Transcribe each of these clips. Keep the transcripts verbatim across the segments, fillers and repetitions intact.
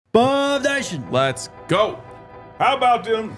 Bob Nation. Let's go. How about them?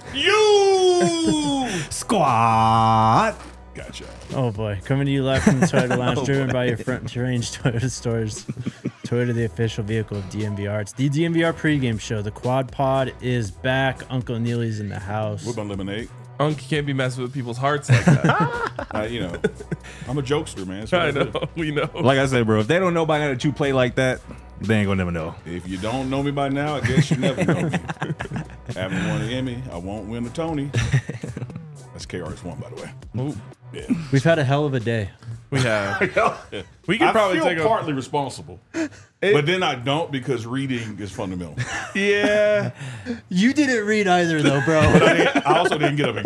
You Squad. Gotcha. Oh boy, coming to you live from the Toyota Lounge, oh driven boy. by your front range Toyota stores. Toyota, the official vehicle of D M V R. It's the D M V R pregame show. The Quad Pod is back. Uncle Neely's in the house. We're gonna lemonade. Unc, you can't be messing with people's hearts like that. uh, you know, I'm a jokester, man. I, I know. We know. Like I said, bro, if they don't know by now that you play like that, they ain't gonna never know. If you don't know me by now, I guess you never know me. Haven't won an Emmy. I won't win a Tony. That's K R S one, by the way. Ooh. Yeah. We've had a hell of a day. We have. We can I probably feel take a partly responsible, it, but then I don't because reading is fundamental. Yeah. You didn't read either, though, bro. But I, didn't, I also didn't get up and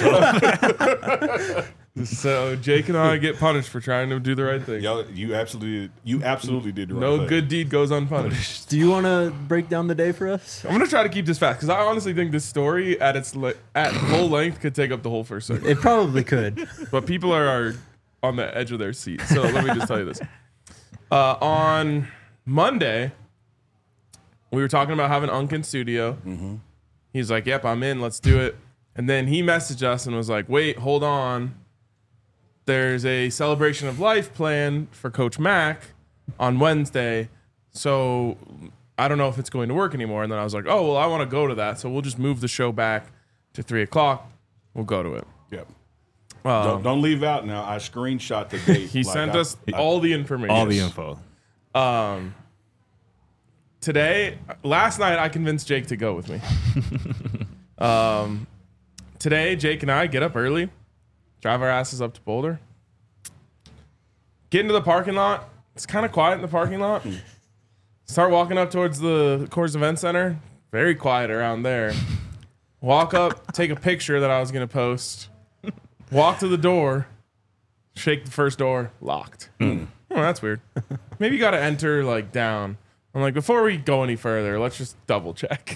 go. So. So Jake and I get punished for trying to do the right thing. Yo, you absolutely, you absolutely did the right No thing. good deed goes unpunished. Do you want to break down the day for us? I'm gonna try to keep this fast because I honestly think this story at its le- at full length could take up the whole first segment. It probably could. But people are, are on the edge of their seat. So let me just tell you this. Uh, on Monday, we were talking about having Unc in studio. Mm-hmm. He's like, "Yep, I'm in. Let's do it." And then he messaged us and was like, "Wait, hold on. There's a celebration of life planned for Coach Mack on Wednesday. So I don't know if it's going to work anymore." And then I was like, "Oh, well, I want to go to that. So we'll just move the show back to three o'clock. We'll go to it." Yep. Um, don't, don't leave out now. I screenshot the date. he like sent I, us I, all the information. All the info. Um, today, last night, I convinced Jake to go with me. um, today, Jake and I get up early, drive our asses up to Boulder, get into the parking lot. It's kind of quiet in the parking lot. Start walking up towards the Coors Event Center. Very quiet around there. Walk up, take a picture that I was going to post. Walk to the door, shake the first door, locked. Mm. Oh, that's weird. Maybe you got to enter like down. I'm like, before we go any further, let's just double check.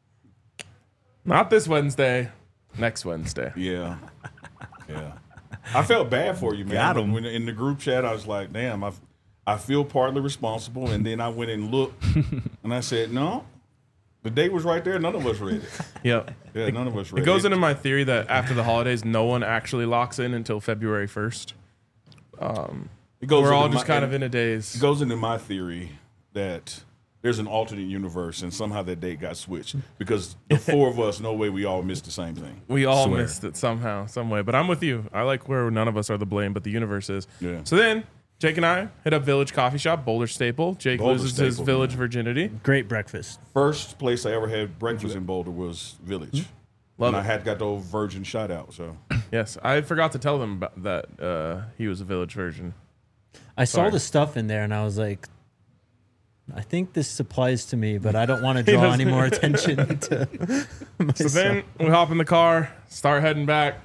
Not this Wednesday, next Wednesday. Yeah. Yeah. I felt bad for you, man. Got him. When in the group chat, I was like, damn, I, I feel partly responsible. And then I went and looked, and I said, no, the date was right there. None of us read it. Yep. Yeah, none of us read it. It goes into my theory that after the holidays, no one actually locks in until February first. Um, It goes we're all into just my- kind of in a daze. It goes into my theory that there's an alternate universe, and somehow that date got switched because the four of us, no way we all missed the same thing. We all Swear. missed it somehow, some way. But I'm with you. I like where none of us are the blame, but the universe is. Yeah. So then, Jake and I hit up Village Coffee Shop, Boulder Staple. Jake Boulder loses his Staple, village man. virginity. Great breakfast. First place I ever had breakfast in Boulder was Village. Love and it. I had got the old virgin shout out. So Yes, I forgot to tell them about that uh, he was a village virgin. I saw Sorry. the stuff in there, and I was like, I think this applies to me, but I don't want to draw any more attention to myself. So then we hop in the car, start heading back,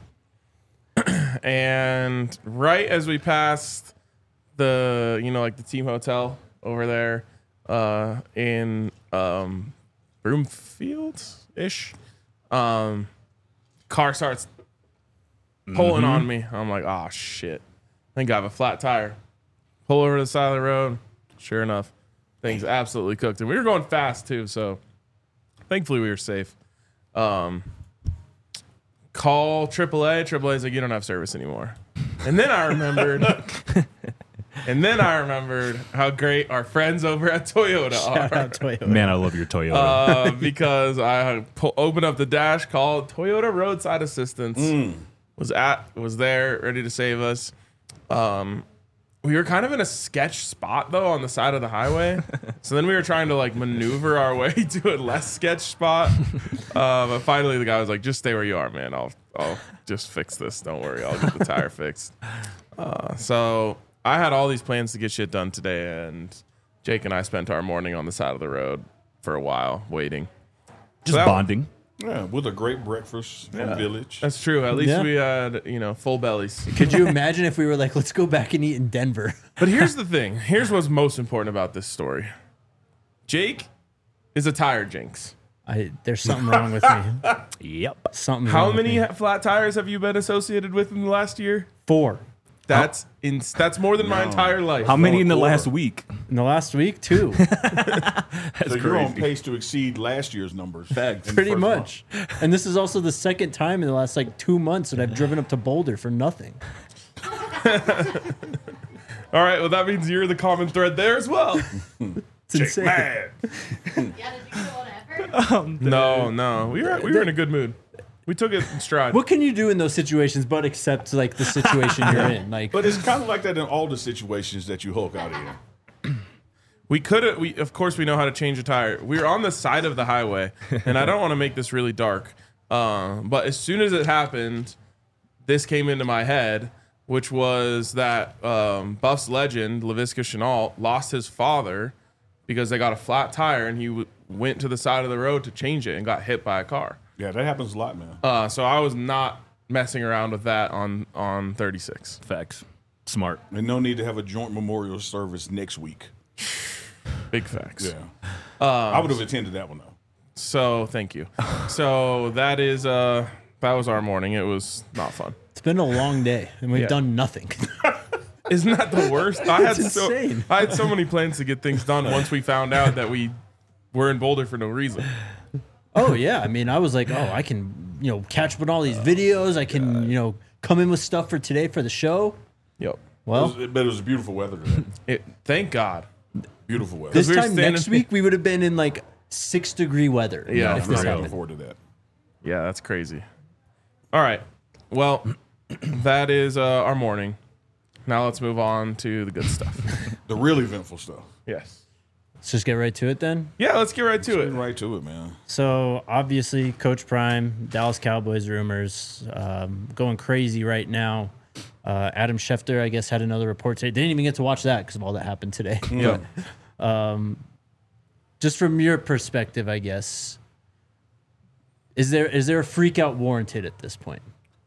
and right as we passed the, you know, like the team hotel over there uh, in um, Broomfield ish, um, car starts pulling on me. I'm like, oh shit! I think I have a flat tire. Pull over to the side of the road. Sure enough, things absolutely cooked, and we were going fast too. So thankfully we were safe. Um, call triple A. triple A's like, you don't have service anymore. And then I remembered, and then I remembered how great our friends over at Toyota Shout are. out Toyota. Man, I love your Toyota. Uh, because I pu- opened up the dash, called Toyota Roadside Assistance. Was at was there, ready to save us. Um, we were kind of in a sketch spot though on the side of the highway. So then we were trying to like maneuver our way to a less sketch spot. Uh, but finally the guy was like, "Just stay where you are, man. I'll I'll just fix this. Don't worry. I'll get the tire fixed." Uh, so I had all these plans to get shit done today, and Jake and I spent our morning on the side of the road for a while waiting. Just that- bonding. yeah, with a great breakfast from Village. That's true. At least Yeah. we had, you know, full bellies. Could you imagine if we were like, let's go back and eat in Denver? But here's the thing. Here's what's most important about this story. Jake is a tire jinx. I there's something wrong with me. Yep. Something. How wrong with many me. ha- flat tires have you been associated with in the last year? Four. That's in, that's more than my No. entire life. How many in the quarter. last week? In the last week, too. That's So you're on crazy. pace to exceed last year's numbers. Facts. in the Pretty first much. And this is also the second time in the last like two months that I've driven up to Boulder for nothing. All right, well that means you're the common thread there as well. It's Jake insane. mad. Yeah, did you get a lot of effort? no, no, we were we were in a good mood. We took it in stride. What can you do in those situations but accept like the situation you're in? Like, But it's kind of like that in all the situations that you Hulk out in. We could have, we of course we know how to change a tire. We were on the side of the highway, and I don't want to make this really dark, um, but as soon as it happened, this came into my head, which was that um, Buffs legend Laviska Shenault lost his father because they got a flat tire, and he w- went to the side of the road to change it and got hit by a car. Yeah, that happens a lot, man. Uh, so I was not messing around with that on on thirty-six. Facts. Smart. And no need to have a joint memorial service next week. Big facts. Yeah. I would have attended that one, though. So thank you. So that is uh that was our morning. It was not fun. it's been a long day and we've Yeah. done nothing. Isn't that the worst? I had It's so insane. I had so many plans to get things done once we found out that we were in Boulder for no reason. Oh, yeah. I mean, I was like, oh, I can, you know, catch up on all these videos. I can, you know, come in with stuff for today for the show. Yep. It Well, was, but it was beautiful weather today. It, thank God. Beautiful weather. this we were time standing- next week, we would have been in like six degree weather. Yeah, if for this I'm real. looking happened. forward to that. Yeah, that's crazy. All right. Well, that is uh, our morning. Now let's move on to the good stuff. The really eventful stuff. Yes. Let's just get right to it then. Yeah, let's get right to Get it. right to it, man. So obviously, Coach Prime, Dallas Cowboys rumors um, going crazy right now. Uh, Adam Schefter, I guess, had another report today. Didn't even get to watch that because of all that happened today. Yeah. Just from your perspective, I guess, is there is there a freak out warranted at this point?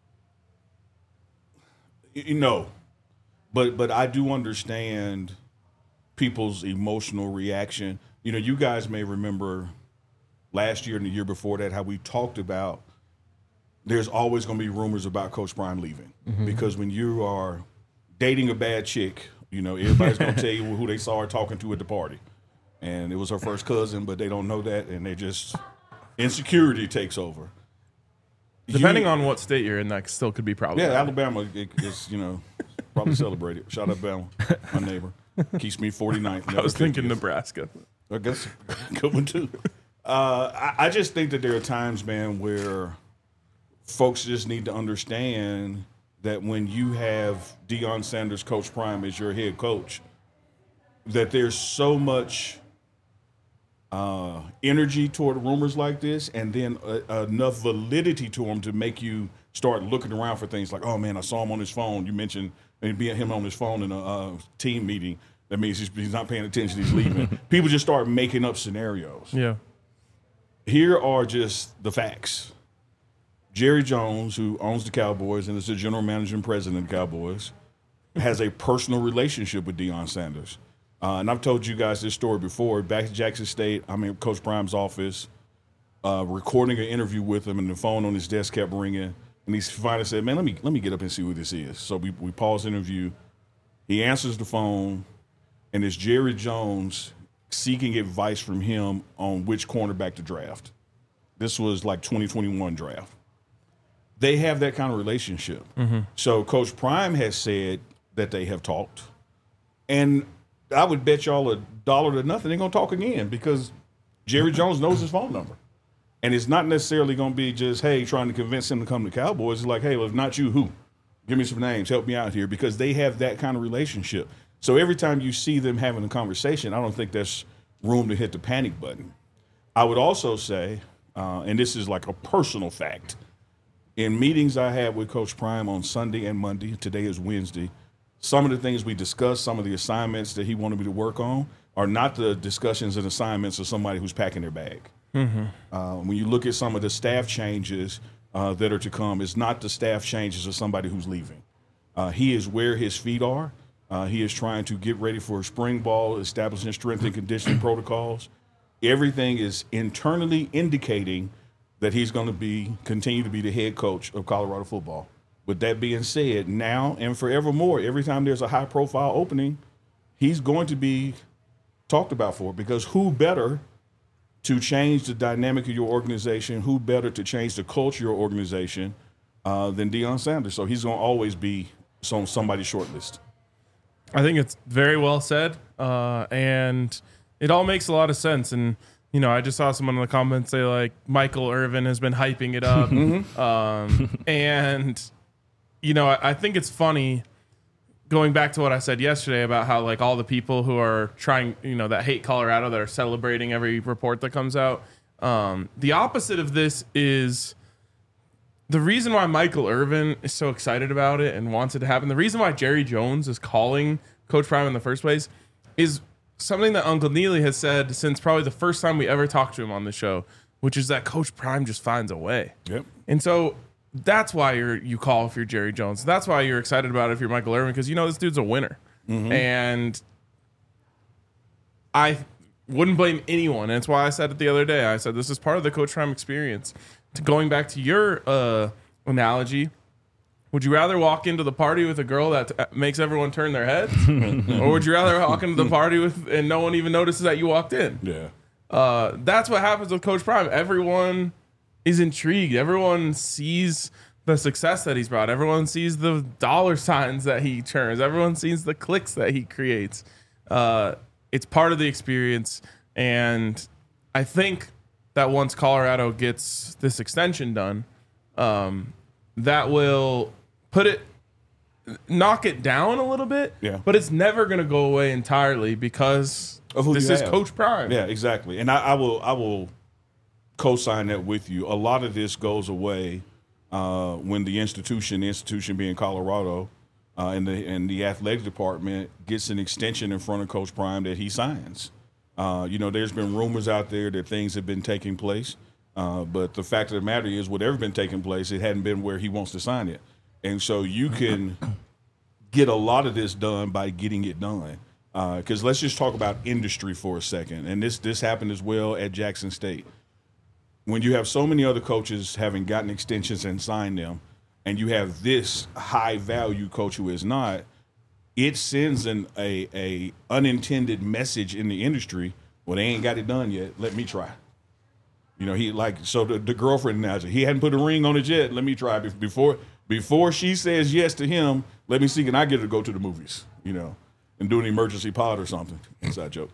You know, but but I do understand people's emotional reaction. You know, you guys may remember last year and the year before that how we talked about there's always going to be rumors about Coach Prime leaving because when you are dating a bad chick, you know, everybody's going to tell you who they saw her talking to at the party. And it was her first cousin, but they don't know that, and they just insecurity takes over. Depending You- on what state you're in, that still could be yeah, problematic. Alabama it, is, you know, probably celebrated. Shout out Alabama, my neighbor. Keeps me forty-ninth. I was thinking Nebraska. I guess good one too. Uh, I, I just think that there are times, man, where folks just need to understand that when you have Deion Sanders, Coach Prime, as your head coach, that there's so much uh, energy toward rumors like this, and then uh, enough validity to them to make you start looking around for things like, oh man, I saw him on his phone. You mentioned and being him on his phone in a uh, team meeting. That means he's, he's not paying attention. He's leaving. People just start making up scenarios. Yeah. Here are just the facts. Jerry Jones, who owns the Cowboys and is the general manager and president of the Cowboys, has a personal relationship with Deion Sanders. Uh, and I've told you guys this story before. Back to Jackson State, I'm in Coach Prime's office, uh, recording an interview with him, and the phone on his desk kept ringing. And he finally said, man, let me let me get up and see who this is. So we, we pause the interview. He answers the phone, and it's Jerry Jones seeking advice from him on which cornerback to draft. This was like twenty twenty-one draft. They have that kind of relationship. So Coach Prime has said that they have talked. And I would bet y'all a dollar to nothing they're going to talk again because Jerry Jones knows his phone number. And it's not necessarily going to be just, hey, trying to convince him to come to Cowboys. It's like, hey, well, if not you, who? Give me some names. Help me out here because they have that kind of relationship. So every time you see them having a conversation, I don't think there's room to hit the panic button. I would also say, uh, and this is like a personal fact, in meetings I had with Coach Prime on Sunday and Monday, today is Wednesday, some of the things we discussed, some of the assignments that he wanted me to work on are not the discussions and assignments of somebody who's packing their bag. Mm-hmm. Uh, when you look at some of the staff changes uh, that are to come, it's not the staff changes of somebody who's leaving. Uh, he is where his feet are. Uh, he is trying to get ready for spring ball, establishing strength and conditioning protocols. Everything is internally indicating that he's going to be continue to be the head coach of Colorado football. With that being said, now and forevermore, every time there's a high profile opening, he's going to be talked about for it, because who better to change the dynamic of your organization, who better to change the culture of your organization uh, than Deion Sanders? So he's going to always be on somebody's short list. I think it's very well said, uh, and it all makes a lot of sense. And, you know, I just saw someone in the comments say, like, Michael Irvin has been hyping it up. um, and, you know, I, I think it's funny, going back to what I said yesterday about how, like, all the people who are trying, you know, that hate Colorado, that are celebrating every report that comes out. Um, the opposite of this is the reason why Michael Irvin is so excited about it and wants it to happen. The reason why Jerry Jones is calling Coach Prime in the first place is something that Uncle Neely has said since probably the first time we ever talked to him on the show, which is that Coach Prime just finds a way. Yep. And so that's why you're you call if you're Jerry Jones. That's why you're excited about it if you're Michael Irvin, because you know this dude's a winner. Mm-hmm. And I wouldn't blame anyone. And that's why I said it the other day. I said this is part of the Coach Prime experience. To going back to your uh, analogy, would you rather walk into the party with a girl that t- makes everyone turn their heads, or would you rather walk into the party with and no one even notices that you walked in? Yeah. Uh, that's what happens with Coach Prime. Everyone is intrigued. Everyone sees the success that he's brought. Everyone sees the dollar signs that he churns. Everyone sees the clicks that he creates. Uh, it's part of the experience. And I think that once Colorado gets this extension done, um, that will put it, knock it down a little bit. Yeah. But it's never going to go away entirely because Of who this you is have. Coach Prime. Yeah, exactly. And I, I will I will co-sign that with you. A lot of this goes away uh, when the institution, the institution being Colorado, uh, and the and the athletic department gets an extension in front of Coach Prime that he signs. Uh, you know, there's been rumors out there that things have been taking place, uh, but the fact of the matter is, whatever's been taking place, it hadn't been where he wants to sign it. And so you can get a lot of this done by getting it done. Because uh, let's just talk about industry for a second. And this this happened as well at Jackson State. When you have so many other coaches having gotten extensions and signed them, and you have this high-value coach who is not, it sends an a, a unintended message in the industry. Well, they ain't got it done yet. Let me try. You know, he like so the, the girlfriend analogy. He hadn't put a ring on it yet. Let me try before before she says yes to him. Let me see, can I get her to go to the movies? You know, and do an emergency pod or something. Inside joke.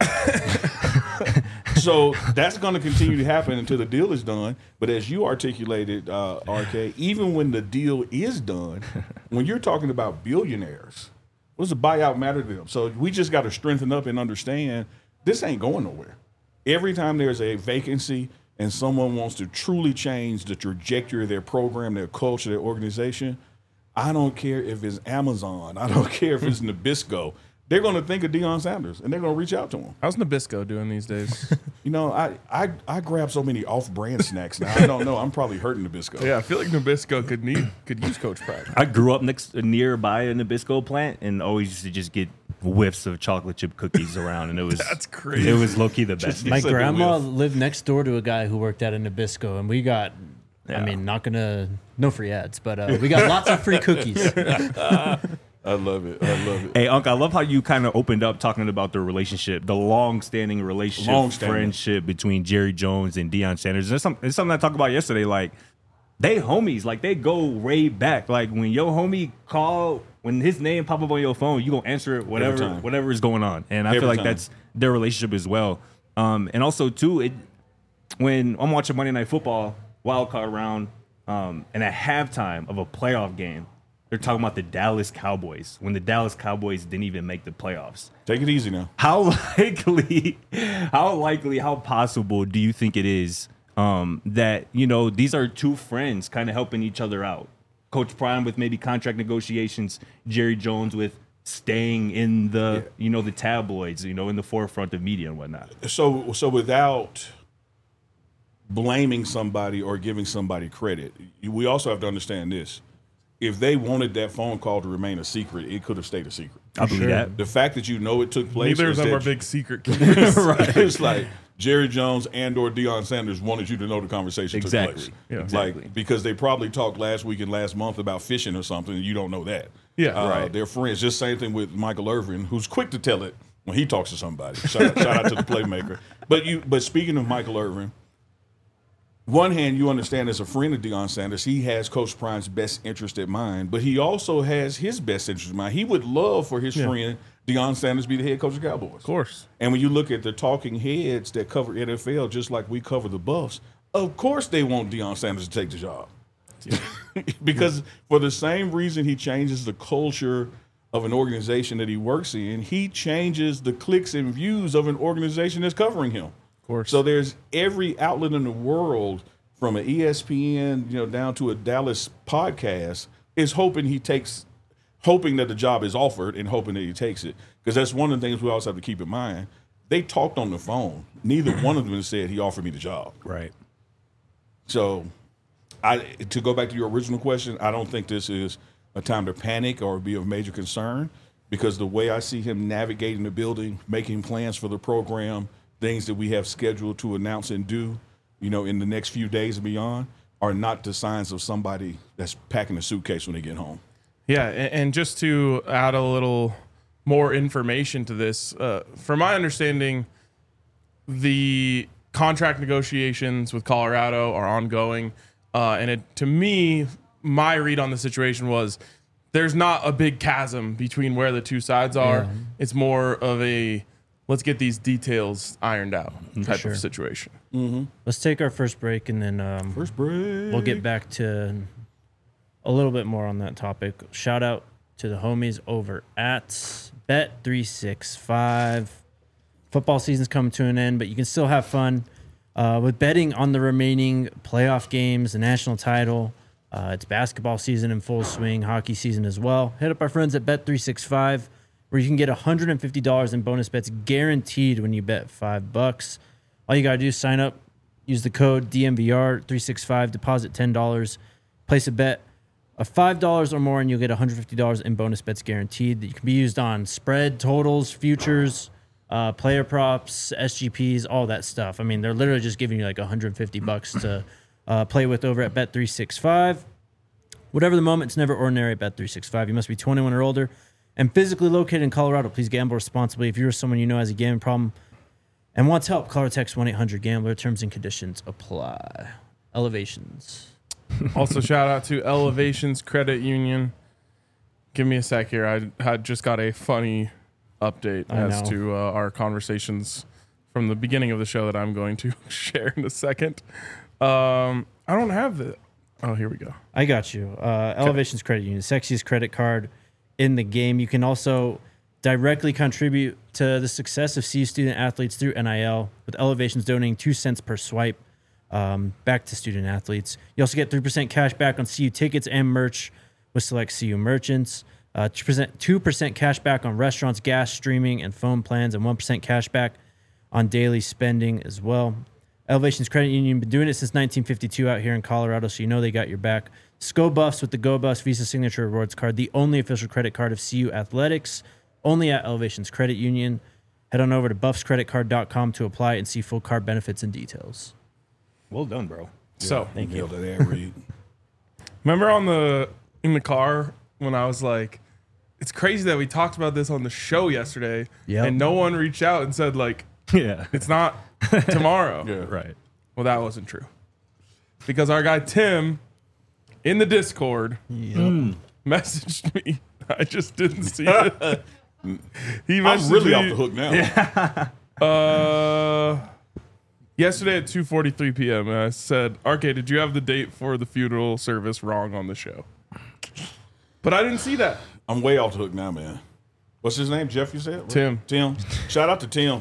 So that's going to continue to happen until the deal is done. But as you articulated, uh, R K, even when the deal is done, when you're talking about billionaires, what does the buyout matter to them? So we just got to strengthen up and understand this ain't going nowhere. Every time there's a vacancy and someone wants to truly change the trajectory of their program, their culture, their organization, I don't care if it's Amazon. I don't care if it's Nabisco. They're going to think of Deion Sanders, and they're going to reach out to him. How's Nabisco doing these days? You know, I, I I grab so many off-brand snacks now. I don't know. I'm probably hurting Nabisco. Yeah, I feel like Nabisco could need could use Coach Prime. I grew up next nearby a Nabisco plant and always used to just get whiffs of chocolate chip cookies around, and it was That's crazy. It was low key the best. My said the grandma whiff. lived next door to a guy who worked at a Nabisco, and we got, Yeah. I mean, not gonna, no free ads, but uh, we got lots of free cookies. I love it. I love it. Hey, Unc, I love how you kind of opened up talking about the relationship, the long-standing relationship, Long-standing. friendship between Jerry Jones and Deion Sanders. It's, some, it's something I talked about yesterday. Like, they homies. Like, they go way back. Like, when your homie call, when his name pop up on your phone, you gonna answer it, whatever, time. whatever is going on. And I Every feel like time. that's their relationship as well. Um, and also, too, it when I'm watching Monday Night Football, wild card round, um, and at halftime of a playoff game, they're talking about the Dallas Cowboys when the Dallas Cowboys didn't even make the playoffs. Take it easy now. How likely, how likely, how possible do you think it is um, that, you know, these are two friends kind of helping each other out? Coach Prime with maybe contract negotiations, Jerry Jones with staying in the, Yeah. you know, the tabloids, you know, in the forefront of media and whatnot. So so without blaming somebody or giving somebody credit, we also have to understand this. if they wanted that phone call to remain a secret, it could have stayed a secret. I believe Sure. that. The fact that you know it took place. Neither is of them that are big secret keepers. right. It's like Jerry Jones and or Deion Sanders wanted you to know the conversation Exactly. took place. Yeah. Exactly. Like, because they probably talked last week and last month about fishing or something, and you don't know that. Yeah. Uh, Right. They're friends. Just same thing with Michael Irvin, who's quick to tell it when he talks to somebody. Shout out, shout out to the playmaker. But you. But speaking of Michael Irvin, one hand, you understand as a friend of Deion Sanders, he has Coach Prime's best interest at mind, but he also has his best interest in mind. He would love for his Yeah. friend Deion Sanders to be the head coach of the Cowboys. Of course. And when you look at the talking heads that cover N F L, just like we cover the Buffs, of course they want Deion Sanders to take the job. Because for the same reason he changes the culture of an organization that he works in, he changes the clicks and views of an organization that's covering him. Of course. So there's every outlet in the world, from an E S P N, you know, down to a Dallas podcast, is hoping he takes, hoping that the job is offered and hoping that he takes it. Because that's one of the things we also have to keep in mind. They talked on the phone. Neither one of them said he offered me the job. Right. So, I to go back to your original question, I don't think this is a time to panic or be of major concern, because the way I see him navigating the building, making plans for the program, things that we have scheduled to announce and do, you know, in the next few days and beyond, are not the signs of somebody that's packing a suitcase when they get home. Yeah, and, and just to add a little more information to this, uh, from my understanding, the contract negotiations with Colorado are ongoing, uh, and it, to me, my read on the situation was there's not a big chasm between where the two sides are. Yeah. It's more of a let's get these details ironed out type sure. of situation. Let's take our first break, and then um, First break. we'll get back to a little bit more on that topic. Shout out to the homies over at Bet three sixty-five. Football season's coming to an end, but you can still have fun uh, with betting on the remaining playoff games, the national title. Uh, it's basketball season in full swing, hockey season as well. Hit up our friends at Bet three sixty-five, where you can get one hundred fifty dollars in bonus bets guaranteed when you bet five bucks. All you got to do is sign up, use the code D M V R three sixty-five, deposit ten dollars, place a bet of five dollars or more, and you'll get one hundred fifty dollars in bonus bets guaranteed. That you can be used on spread, totals, futures, uh, player props, S G Ps, all that stuff. I mean, they're literally just giving you like one hundred fifty bucks to uh, play with over at Bet three sixty-five. Whatever the moment, it's never ordinary at Bet three sixty-five. You must be twenty-one or older and physically located in Colorado. Please gamble responsibly. If you're someone you know has a gambling problem and wants help, call or text one eight hundred gambler. Terms and conditions apply. Elevations. Also, shout out to Elevations Credit Union. Give me a sec here. I had just got a funny update I as know. to uh, our conversations from the beginning of the show that I'm going to share in a second. Um, I don't have the. Oh, here we go. I got you. Uh, Elevations Credit Union, sexiest credit card in the game. You can also directly contribute to the success of C U student athletes through N I L, with Elevations donating two cents per swipe um, back to student athletes. You also get three percent cash back on C U tickets and merch with select C U merchants. Uh, two percent cash back on restaurants, gas, streaming, and phone plans, and one percent cash back on daily spending as well. Elevations Credit Union, been doing it since nineteen fifty-two out here in Colorado, so you know they got your back. Sco Buffs with the Go Buffs Visa Signature Rewards Card, the only official credit card of C U Athletics, only at Elevations Credit Union. Head on over to buffs credit card dot com to apply and see full card benefits and details. Well done, bro. So, Thank you. Nailed it, ad read. remember on the in the car when I was like, "It's crazy that we talked about this on the show yesterday, Yep. and no one reached out and said like, Yeah. it's not tomorrow." Yeah. Right. Well, that wasn't true, because our guy Tim in the Discord messaged me. I just didn't see it. He messaged I'm really me, off the hook now. Uh, yesterday at two forty-three p.m. and I said, "Arcade, did you have the date for the funeral service wrong on the show?" But I didn't see that. I'm way off the hook now, man. What's his name? Jeff, you said? Tim. Tim. Shout out to Tim.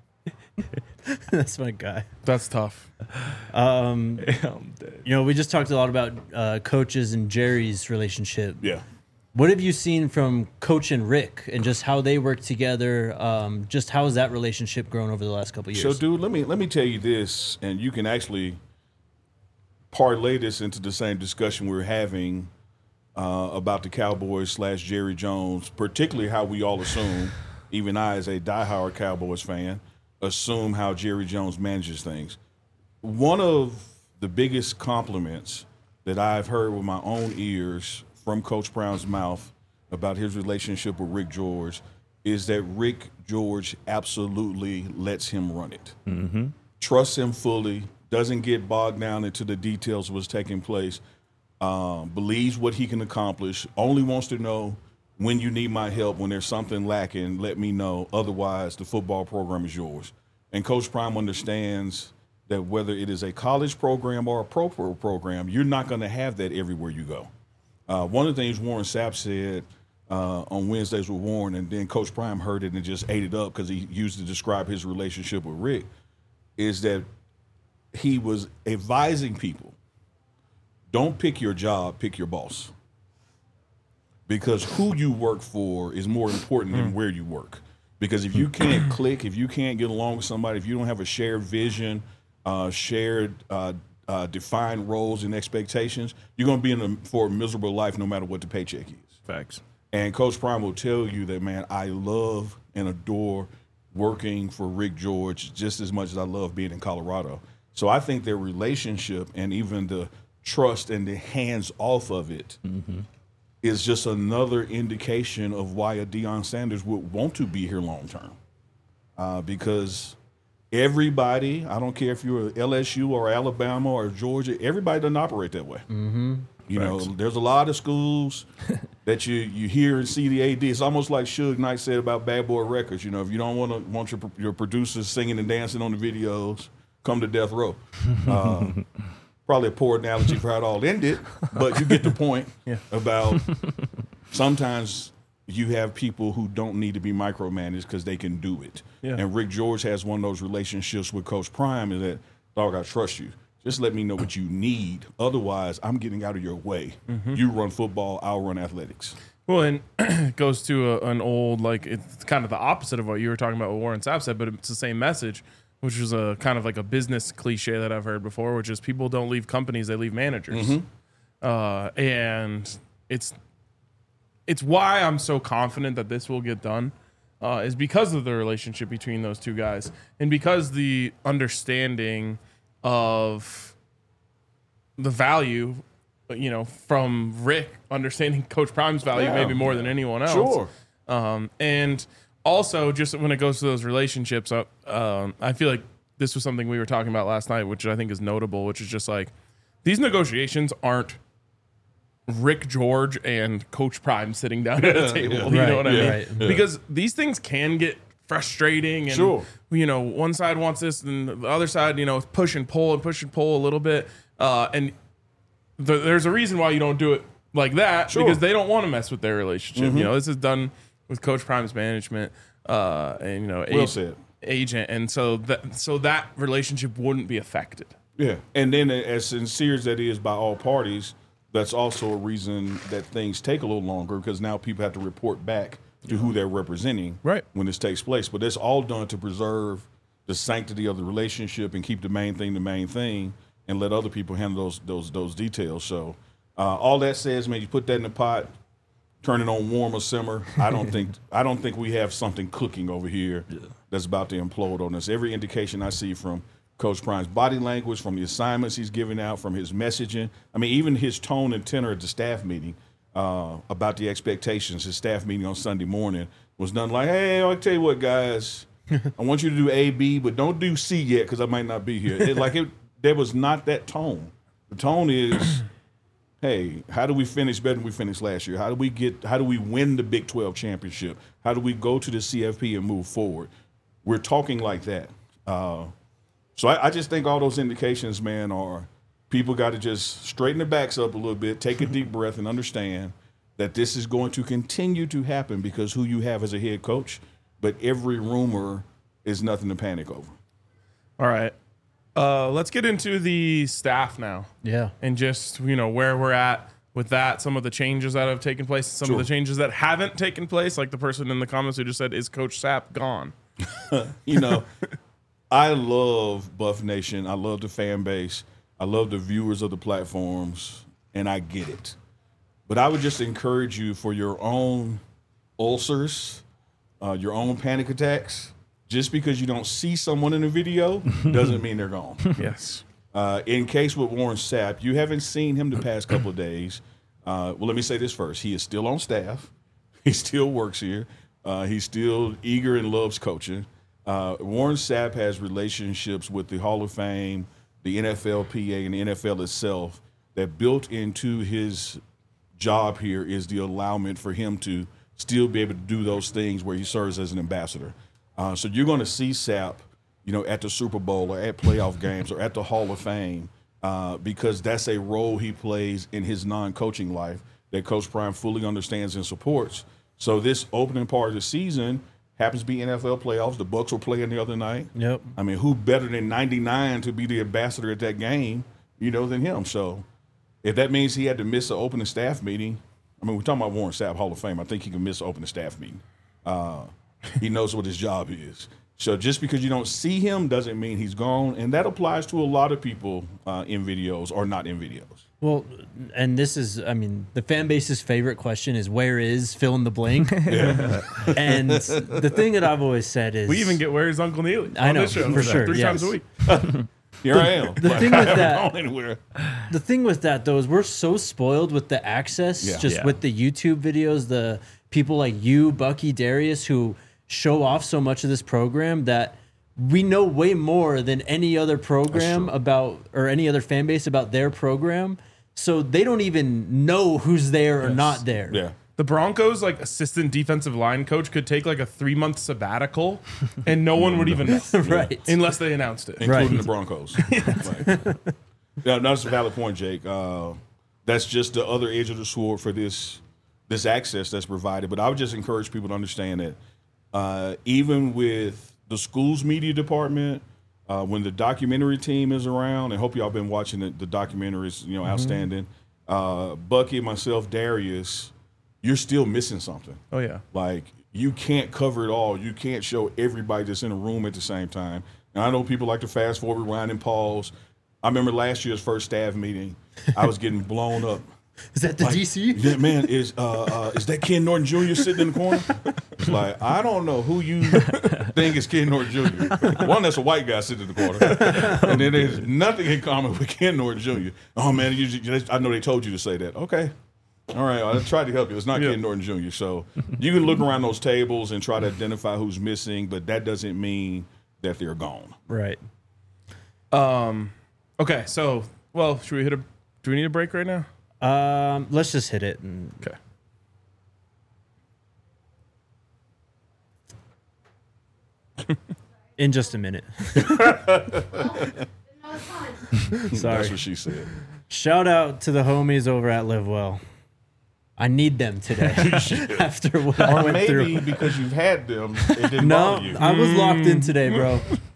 That's my guy. That's tough. Um, I'm dead. you know, we just talked a lot about uh, coaches and Jerry's relationship. Yeah. What have you seen from Coach and Rick and just how they work together? Um, just how has that relationship grown over the last couple of So, years? dude, let me let me tell you this, and you can actually parlay this into the same discussion we were having uh, about the Cowboys slash Jerry Jones, particularly how we all assume, even I as a diehard Cowboys fan, assume how Jerry Jones manages things. One of the biggest compliments that I've heard with my own ears from Coach Brown's mouth about his relationship with Rick George is that Rick George absolutely lets him run it. Mm-hmm. Trusts him fully, doesn't get bogged down into the details of what's taking place, um, believes what he can accomplish, only wants to know when you need my help, when there's something lacking, let me know. Otherwise, the football program is yours. And Coach Prime understands that whether it is a college program or a pro program, you're not going to have that everywhere you go. Uh, one of the things Warren Sapp said uh, on Wednesdays with Warren, and then Coach Prime heard it and just ate it up because he used to describe his relationship with Rick, is that he was advising people, don't pick your job, pick your boss. Because who you work for is more important than where you work. Because if you can't click, if you can't get along with somebody, if you don't have a shared vision, uh, shared uh, uh, defined roles and expectations, you're going to be in a, for a miserable life no matter what the paycheck is. Facts. And Coach Prime will tell you that, man, I love and adore working for Rick George just as much as I love being in Colorado. So I think their relationship and even the trust and the hands off of it mm-hmm. is just another indication of why a Deion Sanders would want to be here long term. Uh, because everybody, I don't care if you're L S U or Alabama or Georgia, everybody doesn't operate that way. Mm-hmm. You Thanks. know, there's a lot of schools that you, you hear and see the A D. It's almost like Suge Knight said about Bad Boy Records. You know, if you don't want to want your your producers singing and dancing on the videos, come to Death Row. Uh, probably a poor analogy for how it all ended, but you get the point yeah. about sometimes you have people who don't need to be micromanaged because they can do it. Yeah. And Rick George has one of those relationships with Coach Prime is that, dog, I trust you. Just let me know what you need. Otherwise, I'm getting out of your way. Mm-hmm. You run football, I'll run athletics. Well, and it goes to a, an old, like, it's kind of the opposite of what you were talking about, what Warren Sapp said, but it's the same message, which is a kind of like a business cliche that I've heard before, which is people don't leave companies, they leave managers. Mm-hmm. Uh, and it's it's why I'm so confident that this will get done, uh, is because of the relationship between those two guys and because the understanding of the value, you know, from Rick understanding Coach Prime's value yeah. maybe more than anyone else. Sure. Um, and also, just when it goes to those relationships, uh, um, I feel like this was something we were talking about last night, which I think is notable, which is just like these negotiations aren't Rick George and Coach Prime sitting down at a table. Yeah. You right, know what I yeah, mean? Right. Yeah. Because these things can get frustrating and, sure. you know, one side wants this and the other side, you know, push and pull and push and pull a little bit. Uh, and th- there's a reason why you don't do it like that sure. because they don't want to mess with their relationship. Mm-hmm. You know, this is done with Coach Prime's management uh, and, you know, well ag- said. agent. And so that, so that relationship wouldn't be affected. Yeah. And then as sincere as that is by all parties, that's also a reason that things take a little longer because now people have to report back to who they're representing right. when this takes place. But it's all done to preserve the sanctity of the relationship and keep the main thing the main thing and let other people handle those those those details. So uh, all that says, man, you put that in the pot, turn it on warm or simmer. I don't think I don't think we have something cooking over here yeah. that's about to implode on us. Every indication I see from Coach Prime's body language, from the assignments he's giving out, from his messaging. I mean, even his tone and tenor at the staff meeting uh, about the expectations, his staff meeting on Sunday morning was nothing like, hey, I'll tell you what, guys, I want you to do A, B, but don't do C yet because I might not be here. It, like, it, there was not that tone. The tone is, hey, how do we finish better than we finished last year? How do we get? How do we win the Big twelve championship? How do we go to the C F P and move forward? We're talking like that. Uh, so I, I just think all those indications, man, are people got to just straighten their backs up a little bit, take a deep breath, and understand that this is going to continue to happen because who you have as a head coach. But every rumor is nothing to panic over. All right. Uh, let's get into the staff now. Yeah. And just, you know, where we're at with that, some of the changes that have taken place, some sure. of the changes that haven't taken place, like the person in the comments who just said, is Coach Sapp gone? You know, I love Buff Nation. I love the fan base. I love the viewers of the platforms, and I get it. But I would just encourage you for your own ulcers, uh, your own panic attacks. Just because you don't see someone in a video doesn't mean they're gone. Yes. Uh, in case with Warren Sapp, you haven't seen him the past couple of days. Uh, well, let me say this first. He is still on staff. He still works here. Uh, he's still eager and loves coaching. Uh, Warren Sapp has relationships with the Hall of Fame, the N F L P A, and the N F L itself that built into his job here is the allowment for him to still be able to do those things where he serves as an ambassador. Uh, so you're going to see Sapp, you know, at the Super Bowl or at playoff games or at the Hall of Fame uh, because that's a role he plays in his non-coaching life that Coach Prime fully understands and supports. So this opening part of the season happens to be N F L playoffs. The Bucs were playing the other night. Yep. I mean, who better than ninety-nine to be the ambassador at that game, you know, than him? So if that means he had to miss an opening staff meeting, I mean, we're talking about Warren Sapp, Hall of Fame. I think he can miss an opening staff meeting. Uh, he knows what his job is. So just because you don't see him doesn't mean he's gone. And that applies to a lot of people uh, in videos or not in videos. Well, and this is, I mean, the fan base's favorite question is where is fill in the blank? Yeah. And the thing that I've always said is We even get Where's Uncle Neely I on know, this show for sure, three yes. times a week. Here I am. The Like, thing I with haven't that- gone anywhere. the thing with that though is we're so spoiled with the access, Yeah. just Yeah. with the YouTube videos, the people like you, Bucky, Darius, who show off so much of this program that we know way more than any other program true. about or any other fan base about their program. So they don't even know who's there or not there. Yeah. The Broncos, like assistant defensive line coach, could take like a three month sabbatical, and no one would even know, Right. unless they announced it. Including Right. the Broncos. Right. Yeah, that's a valid point, Jake. Uh, that's just the other edge of the sword for this this access that's provided. But I would just encourage people to understand that uh, even with the school's media department, uh, when the documentary team is around, and hope y'all been watching the, the documentaries, you know, Mm-hmm. outstanding. Uh, Bucky, myself, Darius, you're still missing something. Oh yeah, Like, you can't cover it all. You can't show everybody that's in a room at the same time. And I know people like to fast forward, rewind, and pause. I remember last year's first staff meeting, I was getting blown up. Is that the Like, D C? yeah, man, is uh, uh, is that Ken Norton Junior sitting in the corner? It's like, I don't know who you think is Ken Norton Junior One, that's a white guy sitting in the corner. And then there's nothing in common with Ken Norton Junior Oh, man, you, you- I know they told you to say that. Okay. All right, I tried to help you. It's not Yeah. Ken Norton Junior So you can look around those tables and try to identify who's missing, but that doesn't mean that they're gone. Right. Um, okay, so well, should we hit a? Do we need a break right now? Um, let's just hit it. And Okay. in just a minute. No, it's fine. Sorry. That's what she said. Shout out to the homies over at Live Well. I need them today after what I Or went maybe through. because you've had them, it didn't No, bother you. I was locked in today, bro.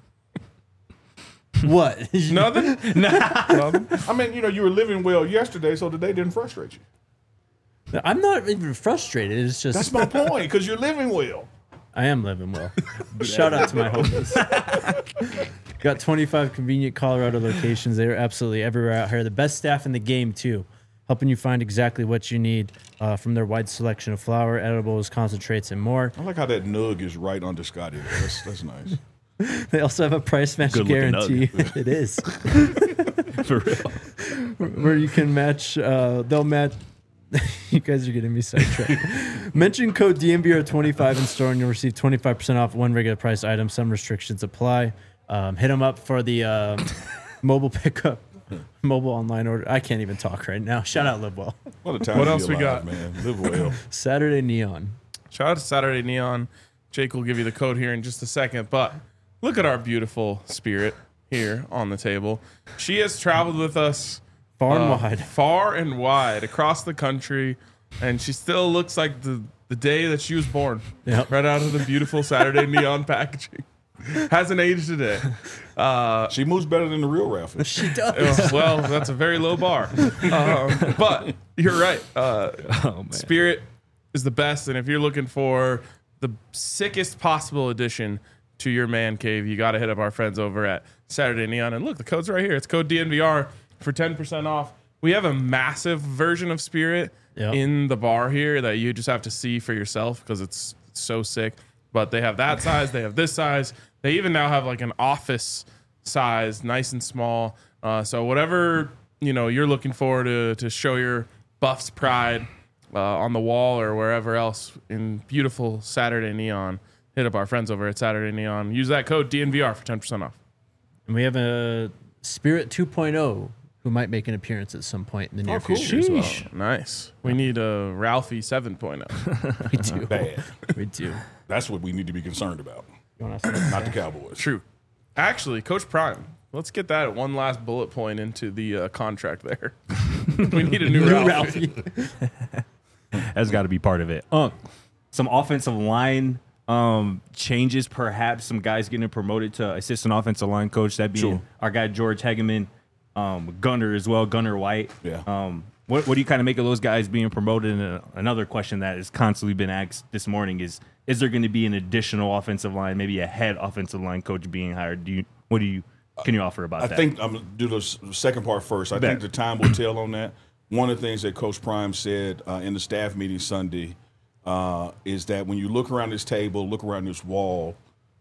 What? Nothing. Nothing. I mean, you know, you were living well yesterday, so today didn't frustrate you. I'm not even frustrated. It's just That's my point, because you're living well. I am living well. Shout out to my homies. Got twenty-five convenient Colorado locations. They're absolutely everywhere out here. The best staff in the game, too, helping you find exactly what you need uh, from their wide selection of flour, edibles, concentrates, and more. I like how that nug is right under Scotty. there. That's, that's nice. They also have a price match Good-looking guarantee. It is. For real. Where you can match, uh, they'll match. You guys are getting me sidetracked. Mention code D M V R twenty-five in store and you'll receive twenty-five percent off one regular price item. Some restrictions apply. Um, hit them up for the uh, mobile pickup, mobile online order. I can't even talk right now. Shout out Live Well. What a time What to be else we alive, got? man. Live well. Saturday Neon. Shout out to Saturday Neon. Jake will give you the code here in just a second, but look at our beautiful Spirit here on the table. She has traveled with us Far and uh, wide. far and wide across the country, and she still looks like the, the day that she was born. Yep. Right out of the beautiful Saturday Neon packaging. Hasn't aged a day. Uh, She moves better than the real Ralphie. She does. well, that's a very low bar. Um, but you're right. Uh, Oh, man. Spirit is the best, and if you're looking for the sickest possible addition to your man cave, you got to hit up our friends over at Saturday Neon. And look, the code's right here. It's code D N V R for ten percent off. We have a massive version of Spirit Yep. in the bar here that you just have to see for yourself because it's so sick. But they have that size, they have this size. They even now have like an office size, nice and small. Uh, so whatever you know you're looking for to to show your Buffs pride uh, on the wall or wherever else in beautiful Saturday Neon, hit up our friends over at Saturday Neon. Use that code D N V R for ten percent off. And we have a Spirit two point oh who might make an appearance at some point in the near Oh, cool. future as well. Oh, nice. We need a Ralphie seven point oh. We do. Bad. We do. That's what we need to be concerned about, You want to not the Cowboys. True. Actually, Coach Prime, let's get that one last bullet point into the uh, contract there. We need a new Ralphie. That's got to be part of it. Uh, some offensive line um, changes, perhaps some guys getting promoted to assistant offensive line coach. That being Sure. our guy George Hegeman, um, Gunner as well, Gunner White. Yeah. Um, what, what do you kind of make of those guys being promoted? And uh, another question that has constantly been asked this morning is: Is there going to be an additional offensive line, maybe a head offensive line coach being hired? Do you? What do you? Can you offer about I that? think I'm going to do the s- second part first. I Bet. think the time will tell on that. One of the things that Coach Prime said uh, in the staff meeting Sunday uh, is that when you look around this table, look around this wall,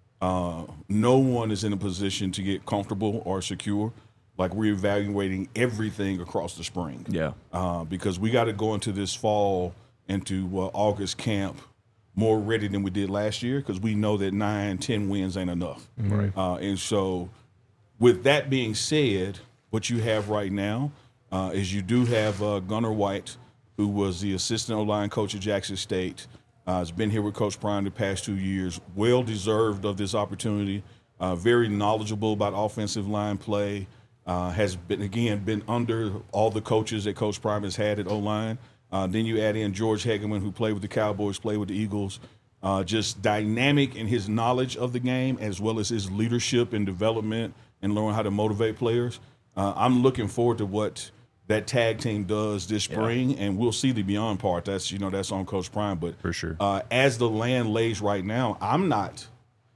uh, no one is in a position to get comfortable or secure. Like we're evaluating everything across the spring. Yeah. Uh, because we got to go into this fall, into uh, August camp more ready than we did last year because we know that nine, ten wins ain't enough. Right. Uh, and so with that being said, what you have right now uh, is you do have uh, Gunner White, who was the assistant O-line coach at Jackson State, uh, has been here with Coach Prime the past two years, well deserved of this opportunity, uh, very knowledgeable about offensive line play, uh, has been, again, been under all the coaches that Coach Prime has had at O-line. Uh, then you add in George Hegeman, who played with the Cowboys, played with the Eagles, uh, just dynamic in his knowledge of the game as well as his leadership and development and learn how to motivate players. Uh, I'm looking forward to what that tag team does this spring, yeah. and we'll see the beyond part. That's you know that's on Coach Prime, but For sure. Uh, as the land lays right now, I'm not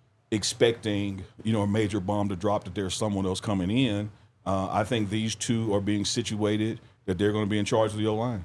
expecting you know a major bomb to drop that there's someone else coming in. Uh, I think these two are being situated that they're going to be in charge of the O-line.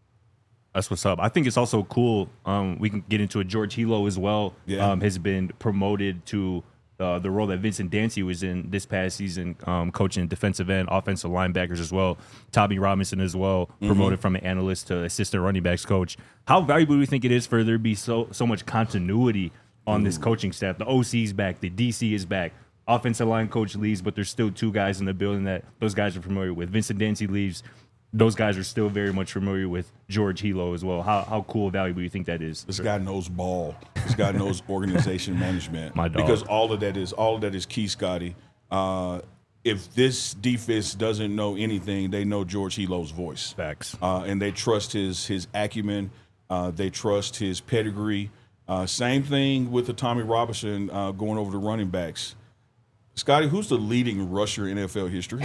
That's what's up. I think it's also cool. Um, we can get into it. George Hilo as well Yeah. um, has been promoted to uh, the role that Vincent Dancy was in this past season, um, coaching defensive end, offensive linebackers as well. Tommy Robinson as well, promoted from an analyst to assistant running backs coach. How valuable do you think it is for there to be so so much continuity on this coaching staff? The O C's back, the D C is back. Offensive line coach leaves, but there's still two guys in the building that those guys are familiar with. Vincent Dancy leaves. Those guys are still very much familiar with George Hilo as well. How how cool, valuable do you think that is? This guy knows ball. This guy knows organization management. My dog. Because all of that is all of that is key, Scotty. Uh, if this defense doesn't know anything, they know George Hilo's voice. Facts. Uh, and they trust his his acumen. Uh, they trust his pedigree. Uh, same thing with the Tommy Robinson uh, going over the running backs. Scotty, who's the leading rusher in N F L history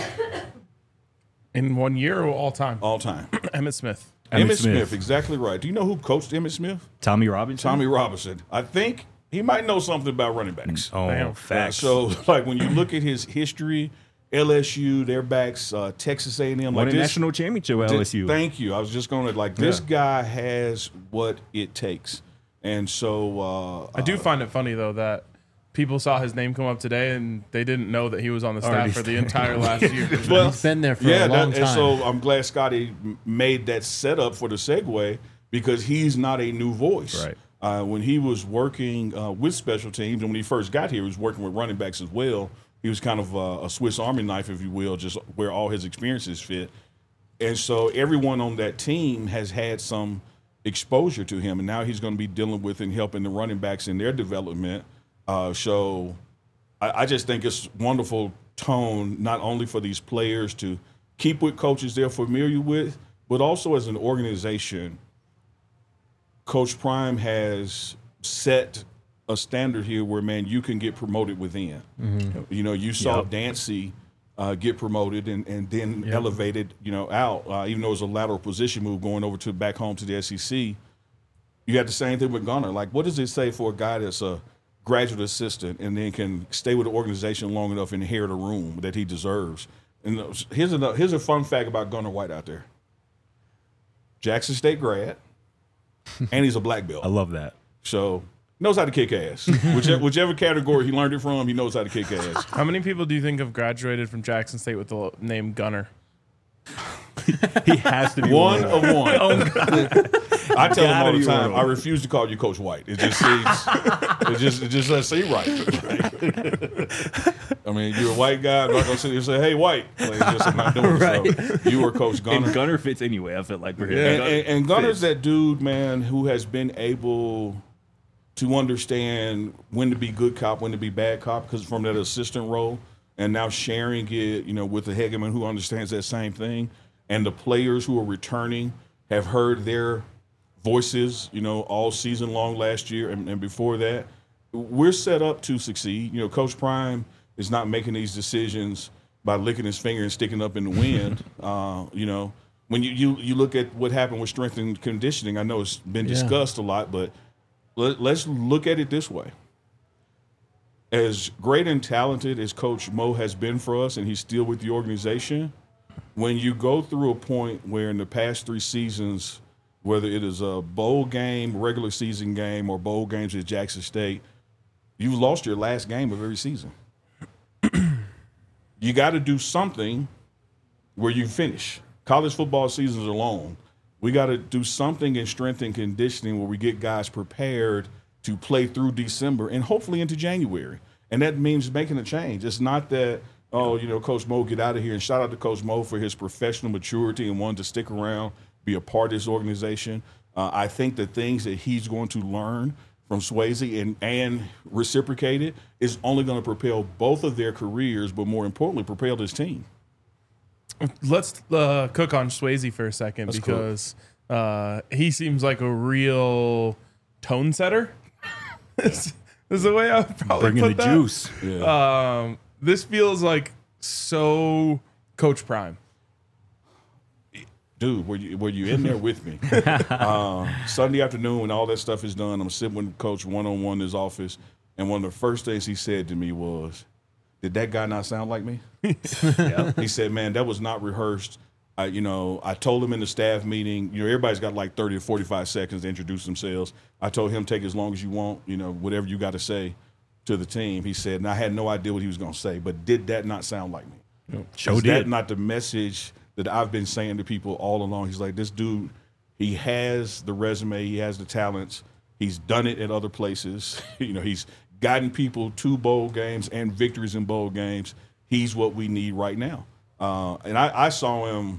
In one year or all time? all time? Emmett Smith. Emmitt Emmitt Smith. Smith. Exactly right. Do you know who coached Emmitt Smith? Tommy Robinson? Tommy Robinson. I think he might know something about running backs. Oh, Damn. Uh, facts. so, like when you look at his history, L S U, their backs, uh, Texas A and M, Won like a this. national championship with L S U. Thank you. I was just going to like this Yeah. guy has what it takes, and so uh, I do find it funny though that people saw his name come up today and they didn't know that he was on the staff Already for the entire last year. Well, He's been there for yeah, a long that, and time. so I'm glad Scotty m- made that setup for the segue because he's not a new voice. Right. Uh, when he was working uh, with special teams, and when he first got here, he was working with running backs as well. He was kind of uh, a Swiss Army knife, if you will, just where all his experiences fit. And so everyone on that team has had some exposure to him, and now he's going to be dealing with and helping the running backs in their development. Uh, so I, I just think it's wonderful tone, not only for these players to keep with coaches they're familiar with, but also as an organization. Coach Prime has set a standard here where, man, you can get promoted within. You know, you saw Yep. Dancy uh, get promoted and, and then elevated, you know, out, uh, even though it was a lateral position move going over to back home to the S E C. You had the same thing with Gunner. Like, what does it say for a guy that's a graduate assistant and then can stay with the organization long enough and inherit a room that he deserves? And here's a, here's a fun fact about Gunner White out there. Jackson State grad, and he's a black belt. I love that. So knows how to kick ass. whichever, whichever category he learned it from, he knows how to kick ass. How many people do you think have graduated from Jackson State with the name Gunner? He has to be One one. of one. I tell him all Gotta the be time, one. I refuse to call you Coach White. It just seems, it just, it just doesn't seem right. I mean, you're a white guy. I'm not gonna sit here and say, "Hey, White." Like, it's just, I'm not doing it. So you were Coach Gunner. And Gunner fits anyway. I feel like for him. And, Gunner and, and Gunner's fits. that dude, man, who has been able to understand when to be good cop, when to be bad cop, because from that assistant role, and now sharing it, you know, with the Hegeman who understands that same thing, and the players who are returning have heard their voices, you know, all season long last year and, and before that. We're set up to succeed. You know, Coach Prime is not making these decisions by licking his finger and sticking up in the wind. uh, you know, when you, you you look at what happened with strength and conditioning, I know it's been Yeah. discussed a lot, but let, let's look at it this way. As great and talented as Coach Mo has been for us, and he's still with the organization, when you go through a point where in the past three seasons, whether it is a bowl game, regular season game, or bowl games at Jackson State, you've lost your last game of every season. You got to do something where you finish. College football seasons are long. We got to do something in strength and conditioning where we get guys prepared to play through December and hopefully into January. And that means making a change. It's not that, oh, you know, Coach Mo, get out of here. And shout out to Coach Mo for his professional maturity and wanting to stick around, be a part of this organization. Uh, I think the things that he's going to learn from Swayze and, and reciprocate it is only going to propel both of their careers, but more importantly, propel this team. Let's uh, cook on Swayze for a second That's cool. because uh, he seems like a real tone setter. This is the way I would probably Bringing put the that. juice. Yeah. Um, this feels like so Coach Prime. Dude, were you, were you in there with me? uh, Sunday afternoon, when all that stuff is done, I'm sitting with Coach one-on-one in his office, and one of the first things he said to me was, did that guy not sound like me? Yeah. He said, man, that was not rehearsed. I, you know, I told him in the staff meeting, you know, everybody's got like thirty or forty-five seconds to introduce themselves. I told him, take as long as you want, you know, whatever you got to say to the team. He said, and I had no idea what he was going to say, but did that not sound like me? Sure Is did. that not the message that I've been saying to people all along? He's like, this dude, he has the resume, he has the talents, he's done it at other places. You know, he's gotten people to bowl games and victories in bowl games. He's what we need right now. Uh, and I, I saw him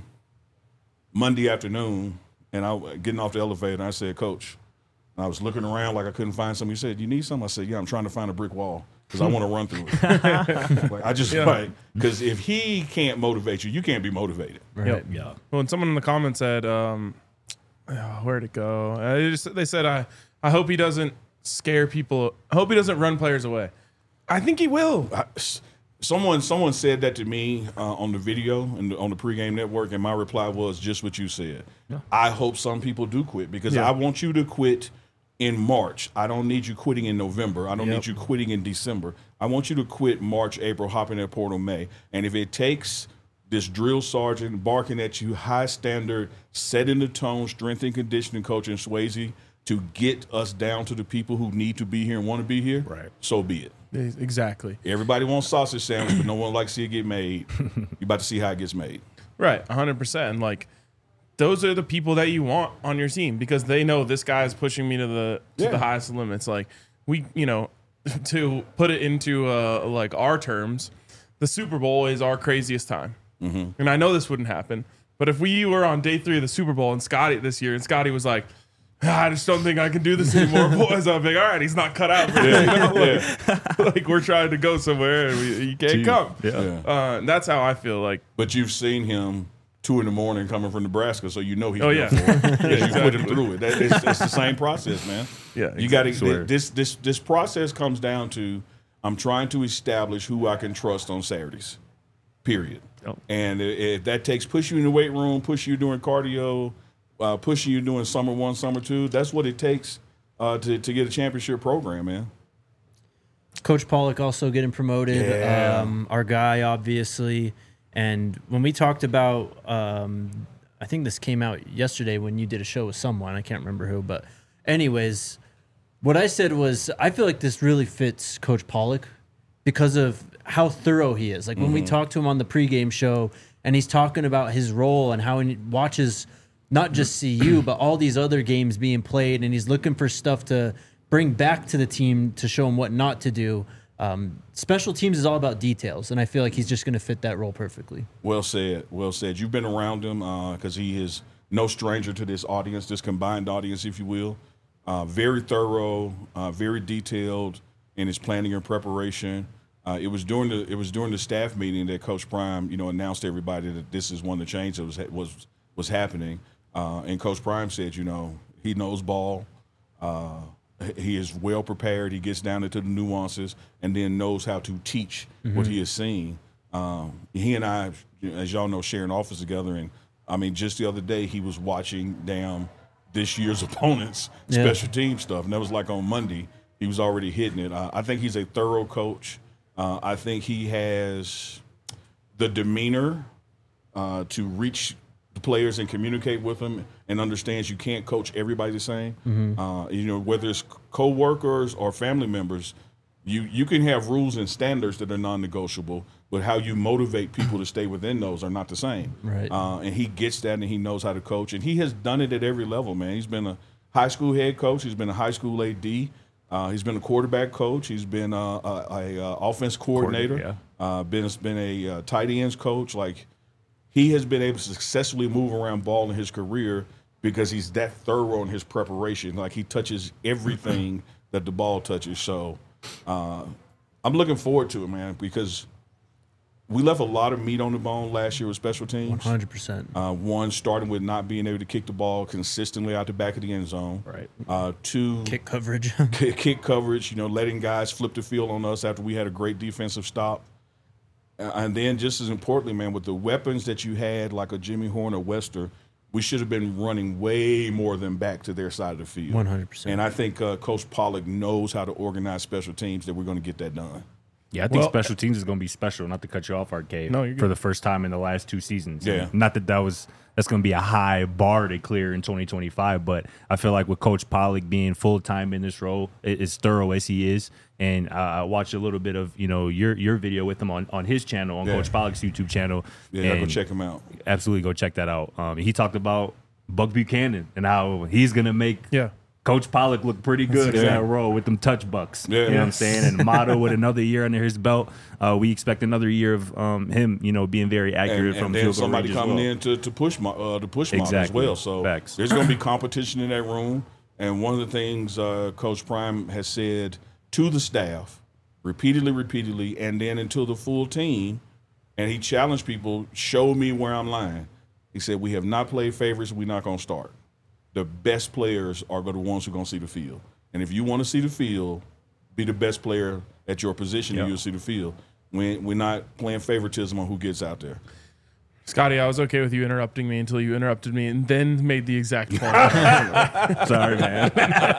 Monday afternoon, and I getting off the elevator, and I said, Coach, and I was looking around like I couldn't find something. He said, you need something? I said, yeah, I'm trying to find a brick wall because I want to run through it. Like, I just, Yeah. like, because if he can't motivate you, you can't be motivated. Right. Yep. Yeah. Well, and someone in the comments said, um, oh, where'd it go? Uh, they, just, they said, I, I hope he doesn't scare people. I hope he doesn't run players away. I think he will. I, someone someone said that to me uh, on the video and on the pregame network, and my reply was just what you said. I hope some people do quit because Yeah. I want you to quit in March. I don't need you quitting in November. I don't Yep. need you quitting in December. I want you to quit March, April, hop in that portal May. And if it takes this drill sergeant barking at you, high standard, setting the tone, strength and conditioning coach and Swayze to get us down to the people who need to be here and want to be here, Right. so be it. Exactly. Everybody wants sausage sandwich, but no one likes to see it get made. You're about to see how it gets made. Right. one hundred percent. And like, those are the people that you want on your team because they know this guy is pushing me to the to Yeah. the highest limits. Like, we, you know, to put it into uh, like our terms, the Super Bowl is our craziest time. Mm-hmm. And I know this wouldn't happen, but if we were on day three of the Super Bowl and Scotty this year, and Scotty was like, "Ah, I just don't think I can do this anymore, boys," I'd be like, all right, he's not cut out for this. You know? Like, Yeah. like, we're trying to go somewhere and we, he can't come. Yeah. Yeah. Uh, and that's how I feel like. But you've seen him two in the morning coming from Nebraska, so you know he's Oh, built yeah. for it. Because you put him Exactly. through it. That, it's, it's the same process, man. Yeah, You got to Swear. this this this process comes down to I'm trying to establish who I can trust on Saturdays. Period. Yep. And i- if that takes push you in the weight room, push you doing cardio, uh, pushing you doing summer one, summer two, that's what it takes uh, to to get a championship program, man. Coach Pollock also getting promoted. Yeah. Um, our guy, obviously. And when we talked about um, I think this came out yesterday when you did a show with someone. I can't remember who, but anyways, what I said was I feel like this really fits Coach Pollock because of how thorough he is. Like when mm-hmm. we talked to him on the pregame show and he's talking about his role and how he watches not just C U, but all these other games being played, and he's looking for stuff to bring back to the team to show him what not to do. Um, special teams is all about details, and I feel like he's just going to fit that role perfectly. Well said. Well said. You've been around him because uh, he is no stranger to this audience, this combined audience, if you will. Uh, very thorough, uh, very detailed in his planning and preparation. Uh, it was during the it was during the staff meeting that Coach Prime, you know, announced to everybody that this is one of the changes that was was was happening. Uh, and Coach Prime said, you know, he knows ball. Uh, He is well prepared. He gets down into the nuances and then knows how to teach mm-hmm. what he has seen. Um, he and I, as y'all know, share an office together. And, I mean, just the other day he was watching down this year's opponents' yeah. special team stuff. And that was like on Monday. He was already hitting it. Uh, I think he's a thorough coach. Uh, I think he has the demeanor uh, to reach – players and communicate with them and understands you can't coach everybody the same. Mm-hmm. Uh, you know, whether it's co-workers or family members, you you can have rules and standards that are non-negotiable, but how you motivate people to stay within those are not the same. Right. Uh, and he gets that, and he knows how to coach, and he has done it at every level, man. He's been a high school head coach. He's been a high school A D. Uh, he's been a quarterback coach. He's been a, a, a, a offense coordinator. Yeah. Uh, been been a uh, tight ends coach. Like. He has been able to successfully move around ball in his career because he's that thorough in his preparation. Like, he touches everything that the ball touches. So uh, I'm looking forward to it, man, because we left a lot of meat on the bone last year with special teams. one hundred percent. Uh, one, starting with not being able to kick the ball consistently out the back of the end zone. Right. Uh, two, kick coverage. kick, kick coverage, you know, letting guys flip the field on us after we had a great defensive stop. And then just as importantly, man, with the weapons that you had, like a Jimmy Horn or Wester, we should have been running way more than back to their side of the field. one hundred percent. And I think uh, Coach Pollock knows how to organize special teams that we're going to get that done. Yeah, I think Well, special teams is going to be special. Not to cut you off, Arcade. No, you're for good. the first time in the last two seasons. Yeah. And not that that was that's going to be a high bar to clear in twenty twenty-five, but I feel like with Coach Pollock being full time in this role, as thorough as he is, and uh, I watched a little bit of you know your your video with him on, on his channel, on Yeah. Coach Pollock's YouTube channel. Yeah, and go check him out. Absolutely, go check that out. Um, he talked about Buck Buchanan and how he's going to make. Yeah. Coach Pollock looked pretty good in Yeah. that role with them touch bucks. Yeah. You know what I'm saying? And Motto with another year under his belt. Uh, we expect another year of um, him, you know, being very accurate And, from and then field goal somebody range as coming well. in to, to push my, uh, to push Mom as Exactly. well. So Facts. there's going to be competition in that room. And one of the things uh, Coach Prime has said to the staff repeatedly, repeatedly, and then until the full team, and he challenged people, show me where I'm lying. He said, we have not played favorites. We're not going to start. The best players are the ones who are going to see the field. And if you want to see the field, be the best player at your position Yep. and you'll see the field. We, we're not playing favoritism on who gets out there. Scotty, I was okay with you interrupting me until you interrupted me and then made the exact point. Sorry, man.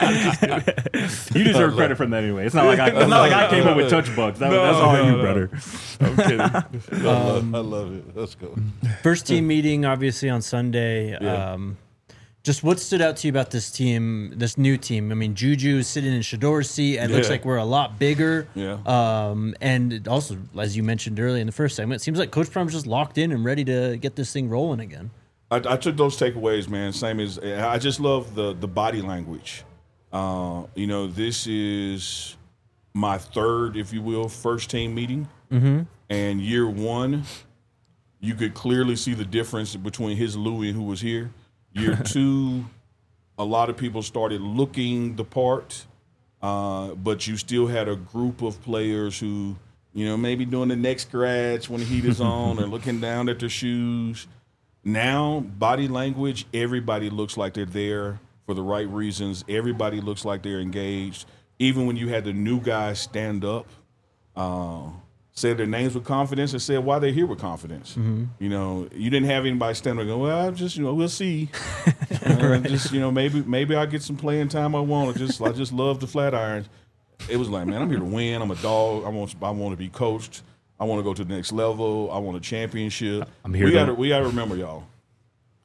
You deserve credit from that anyway. It's not like I, it's not like I came up with touch bugs. That, No, that's all no, you, no. brother. I'm kidding. I, love, I love it. Let's go. First team meeting, obviously, on Sunday. Yeah. Um, just what stood out to you about this team, this new team? I mean, Juju is sitting in Shador's seat. It looks Yeah. like we're a lot bigger. Yeah. Um, and it also, as you mentioned earlier in the first segment, it seems like Coach Prime's just locked in and ready to get this thing rolling again. I, I took those takeaways, man. Same as I just love the the body language. Uh, you know, this is my third, if you will, first team meeting. Mm-hmm. And year one, you could clearly see the difference between his Louis and who was here. Year two, a lot of people started looking the part, uh, but you still had a group of players who, you know, maybe doing the neck scratch when the heat is on or looking down at their shoes. Now, body language, everybody looks like they're there for the right reasons. Everybody looks like they're engaged. Even when you had the new guys stand up, uh, said their names with confidence and said why they're here with confidence. Mm-hmm. You know, you didn't have anybody stand up and go, well, I just, you know, we'll see. uh, just, you know, maybe maybe I'll get some playing time I want. I just, I just love the Flatirons. It was like, man, I'm here to win. I'm a dog. I want, I want to be coached. I want to go to the next level. I want a championship. I'm here We to- got to, we got to remember, y'all.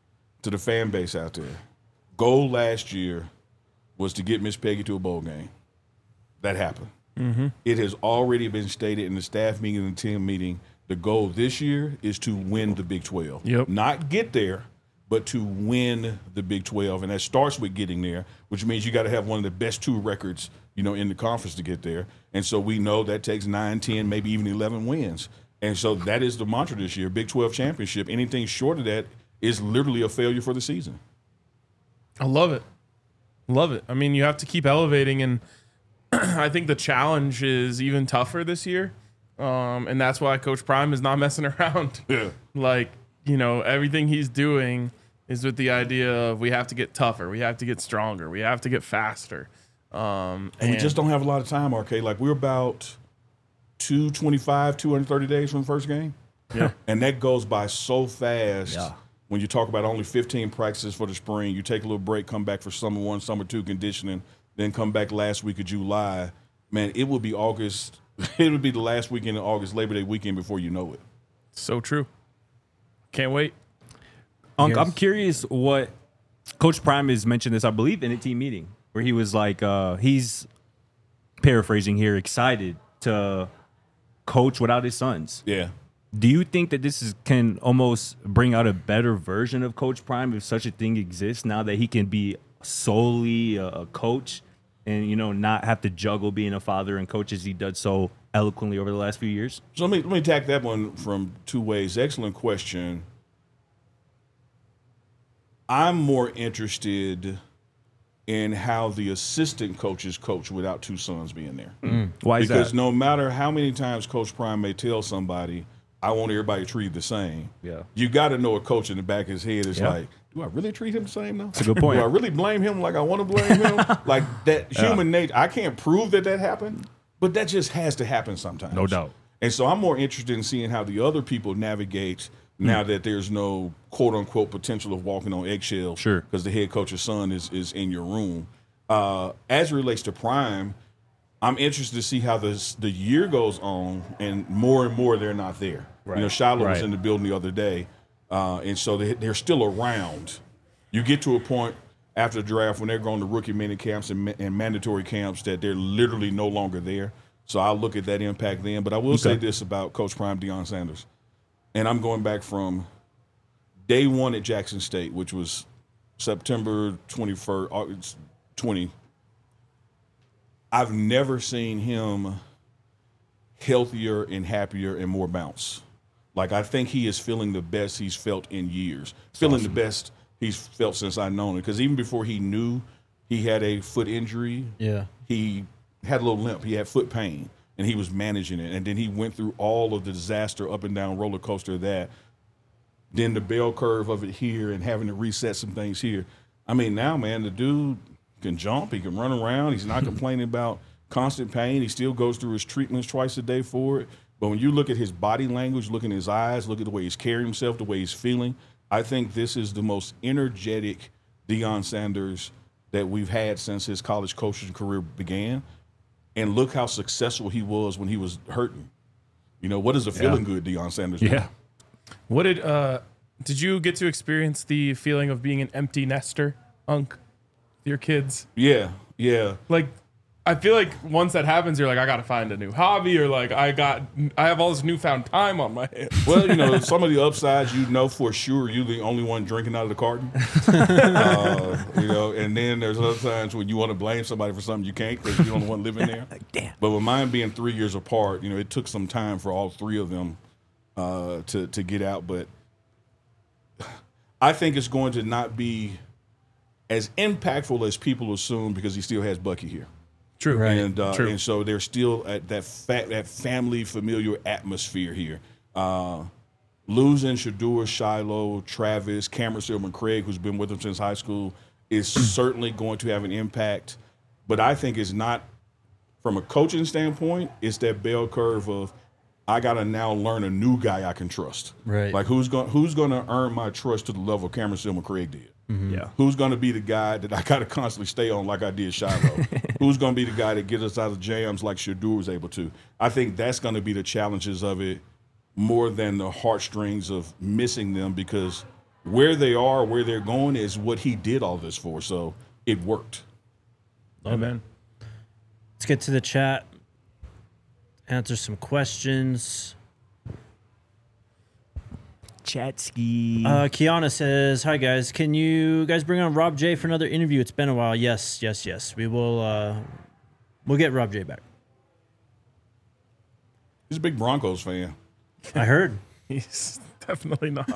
to the fan base out there. Goal last year was to get Miss Peggy to a bowl game. That happened. Mm-hmm. It has already been stated in the staff meeting and the team meeting. The goal this year is to win the Big twelve. Yep. Not get there, but to win the Big twelve. And that starts with getting there, which means you got to have one of the best two records, you know, in the conference to get there. And so we know that takes nine, ten, maybe even eleven wins. And so that is the mantra this year, Big twelve championship. Anything short of that is literally a failure for the season. I love it. Love it. I mean, you have to keep elevating, and I think the challenge is even tougher this year. Um, and that's why Coach Prime is not messing around. Yeah. Like, you know, everything he's doing is with the idea of we have to get tougher, we have to get stronger, we have to get faster. Um, And, we just don't have a lot of time, R K. Like, we're about two twenty-five, two hundred thirty days from the first game. Yeah. And that goes by so fast. Yeah. When you talk about only fifteen practices for the spring, you take a little break, come back for summer one, summer two conditioning, then come back last week of July. Man, it will be August. It would be the last weekend of August, Labor Day weekend before you know it. So true. Can't wait. Unc, Yes. I'm curious what Coach Prime has mentioned this, I believe, in a team meeting where he was like, uh, he's paraphrasing here, excited to coach without his sons. Yeah. Do you think that this is can almost bring out a better version of Coach Prime if such a thing exists now that he can be solely a, a coach and, you know, not have to juggle being a father and coach as he did so eloquently over the last few years? So let me let me attack that one from two ways. Excellent question. I'm more interested in how the assistant coaches coach without two sons being there. Why is Because that? no matter how many times Coach Prime may tell somebody, I want everybody treated the same. Yeah. You got to know a coach in the back of his head is Yeah. like, do I really treat him the same though? That's a good point. Do I really blame him like I want to blame him? Like that human nature. I can't prove that that happened, but that just has to happen sometimes. No doubt. And so I'm more interested in seeing how the other people navigate now that there's no quote unquote potential of walking on eggshells. Sure. Because the head coach's son is is in your room. Uh, as it relates to Prime, I'm interested to see how this the year goes on, and more and more they're not there. Right. You know, Shiloh was Right. in the building the other day, uh, and so they, they're still around. You get to a point after the draft when they're going to rookie mini camps and, ma- and mandatory camps that they're literally no longer there. So I'll look at that impact then. But I will say this about Coach Prime, Deion Sanders, and I'm going back from day one at Jackson State, which was September twenty-first, August twenty. I've never seen him healthier and happier and more bounce. Like, I think he is feeling the best he's felt in years. Feeling the best he's felt since I've known it. Because even before he knew he had a foot injury, Yeah. he had a little limp. He had foot pain, and he was managing it. And then he went through all of the disaster up and down roller coaster of that. Then the bell curve of it here and having to reset some things here. I mean, now, man, the dude can jump. He can run around. He's not complaining about constant pain. He still goes through his treatments twice a day for it. But when you look at his body language, look in his eyes, look at the way he's carrying himself, the way he's feeling, I think this is the most energetic Deion Sanders that we've had since his college coaching career began. And look how successful he was when he was hurting. You know, what is a feeling good Deion Sanders do? Yeah. What did uh did you get to experience the feeling of being an empty nester, Unc? With your kids? Yeah, yeah. Like, I feel like once that happens, you're like, I gotta find a new hobby, or like I got I have all this newfound time on my hands. Well, you know, some of the upsides, you know for sure you're the only one drinking out of the carton. uh, you know, and then there's other times when you want to blame somebody for something you can't because you're the only one living there. Damn. But with mine being three years apart, you know, it took some time for all three of them uh, to to get out. But I think it's going to not be as impactful as people assume because he still has Bucky here. True. Right. And uh, True. and so they're still at that fa- that family familiar atmosphere here. Uh, losing Shador, Shiloh, Travis, Cameron Silverman, Craig, who's been with them since high school, is certainly going to have an impact. But I think it's not from a coaching standpoint. It's that bell curve of I got to now learn a new guy I can trust. Right. Like who's going who's going to earn my trust to the level Cameron Silverman, Craig did. Yeah. Who's going to be the guy that I got to constantly stay on like I did Shiloh? Who's going to be the guy that gets us out of jams like Shador was able to? I think that's going to be the challenges of it more than the heartstrings of missing them because where they are, where they're going is what he did all this for. So it worked. Amen. Let's get to the chat. Answer some questions. Chatsky. Uh, Kiana says, "Hi guys, can you guys bring on Rob J for another interview? It's been a while." Yes, yes, yes. We will. Uh, we'll get Rob J back. He's a big Broncos fan. I heard. He's definitely not.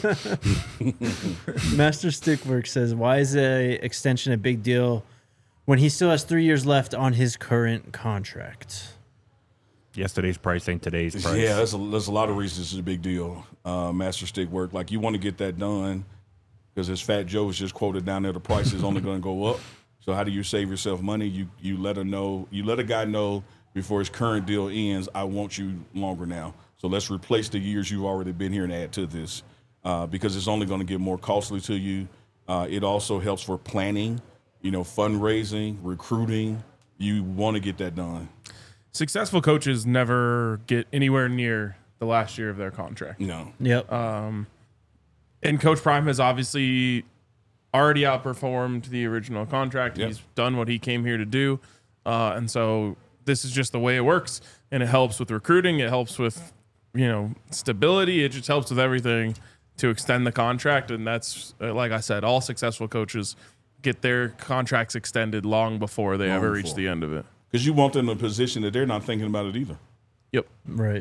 Master Stickwork says, "Why is a extension a big deal when he still has three years left on his current contract?" Yesterday's price ain't today's price. Yeah, there's a, there's a lot of reasons it's a big deal. Uh, Master Stick work. Like, you want to get that done because, as Fat Joe was just quoted down there, the price is only going to go up. So how do you save yourself money? You you let a know. You let a guy know before his current deal ends, I want you longer now. So let's replace the years you've already been here and add to this uh, because it's only going to get more costly to you. Uh, it also helps for planning, you know, fundraising, recruiting. You want to get that done. Successful coaches never get anywhere near the last year of their contract. No. Yep. And Coach Prime has obviously already outperformed the original contract. Yep. He's done what he came here to do. Uh, and so this is just the way it works. And it helps with recruiting. It helps with, you know, stability. It just helps with everything to extend the contract. And that's, uh, like I said, all successful coaches get their contracts extended long before they Long ever reach before. the end of it. Because you want them in a position that they're not thinking about it either. Yep. Right.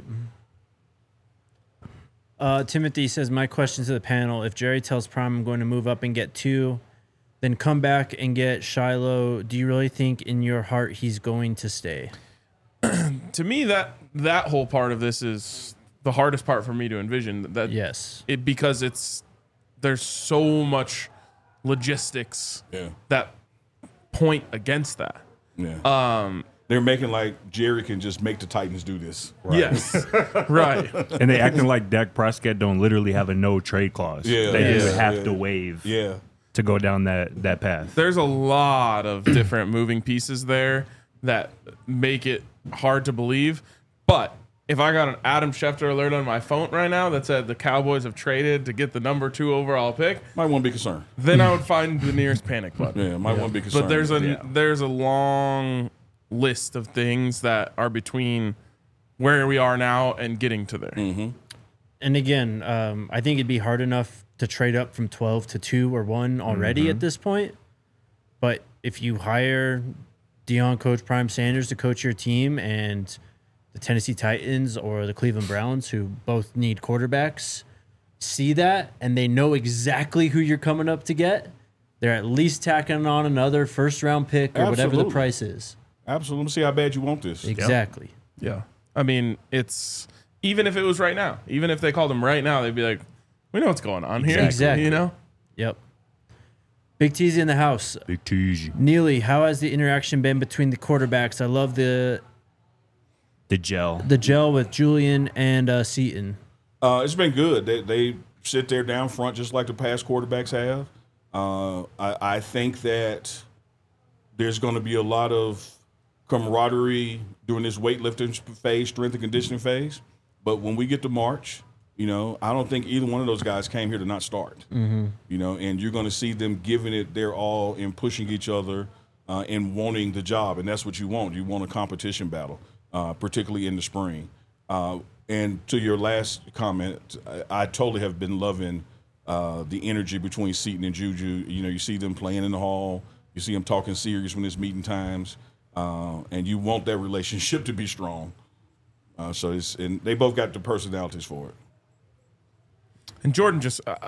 Uh, Timothy says, "My question to the panel: if Jerry tells Prime I'm going to move up and get two, then come back and get Shiloh, do you really think in your heart he's going to stay?" To me, that that whole part of this is the hardest part for me to envision. That Yes. it because it's there's so much logistics Yeah. that point against that. Yeah. Um, They're making like Jerry can just make the Titans do this. Yes, right. And they acting like Dak Prescott don't literally have a no trade clause. Yeah, They yeah, just have yeah. to waive Yeah. to go down that, that path. There's a lot of different moving pieces there that make it hard to believe. But if I got an Adam Schefter alert on my phone right now that said the Cowboys have traded to get the number two overall pick, Might want to be concerned. then I would find the nearest panic button. Yeah, might want to be concerned. But there's a Yeah. there's a long list of things that are between where we are now and getting to there. Mm-hmm. And again, um, I think it'd be hard enough to trade up from twelve to two or one already Mm-hmm. at this point. But if you hire Deion Coach Prime Sanders to coach your team and the Tennessee Titans or the Cleveland Browns, who both need quarterbacks, see that and they know exactly who you're coming up to get, they're at least tacking on another first round pick or whatever the Absolutely. price is. Absolutely. Let me see how bad you want this. Exactly. Yeah. I mean, it's even if it was right now, even if they called him right now, they'd be like, we know what's going on here. Exactly. You know? Yep. Big T's in the house. Big Teasy. Neely, how has the interaction been between the quarterbacks? I love the The gel. the gel with Julian and uh, Seaton. Uh, it's been good. They, they sit there down front just like the past quarterbacks have. Uh, I, I think that there's going to be a lot of camaraderie during this weightlifting phase, strength and conditioning phase. But when we get to March, you know, I don't think either one of those guys came here to not start. Mm-hmm. You know, and you're going to see them giving it their all and pushing each other uh, and wanting the job. And that's what you want. You want a competition battle, uh, particularly in the spring. Uh, and to your last comment, I, I totally have been loving uh, the energy between Seaton and Juju. You know, you see them playing in the hall. You see them talking serious when it's meeting times. Uh, and you want that relationship to be strong. Uh, so it's and they both got the personalities for it. And Jordan just, uh,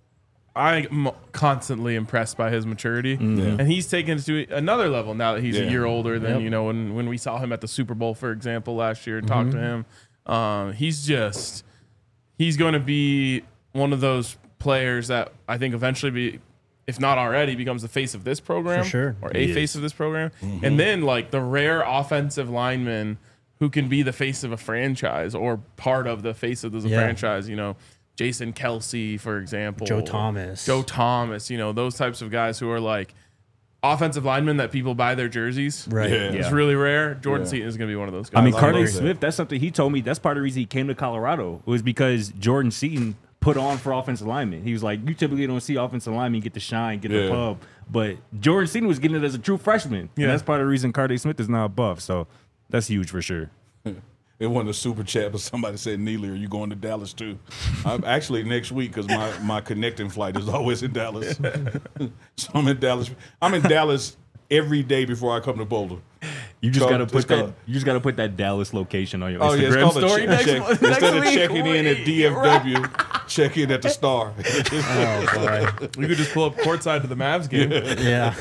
I'm constantly impressed by his maturity. And he's taken it to another level now that he's Yeah. a year older than, Yep. you know, when, when we saw him at the Super Bowl, for example, last year and talked to him. Um, he's just, he's going to be one of those players that I think eventually be, if not already, becomes the face of this program. For sure. Or a He face is. of this program. And then, like, the rare offensive lineman who can be the face of a franchise or part of the face of the Yeah. franchise, you know, Jason Kelsey, for example. Joe Thomas. Joe Thomas, you know, those types of guys who are like offensive linemen that people buy their jerseys. Right. Yeah. It's really rare. Jordan Yeah. Seaton is going to be one of those guys. I mean, I Carter love that. Smith, that's something he told me. That's part of the reason he came to Colorado. It was because Jordan Seaton put on for offensive linemen. He was like, you typically don't see offensive linemen get the shine, get Yeah. the pub, but Jordan Seaton was getting it as a true freshman. Yeah. And that's part of the reason Carter Smith is now a buff. So that's huge for sure. It wasn't a super chat, but somebody said, Neely, are you going to Dallas too? I'm actually next week because my, my connecting flight is always in Dallas. So I'm in Dallas. I'm in Dallas every day before I come to Boulder. You just So, gotta it's put that. called- You just gotta put that Dallas location on your Oh, yeah, it's Instagram called a story check, next check. month. Instead next of week. checking in at D F W, check in at the Star. Oh boy. We could just pull up courtside to the Mavs game. Yeah.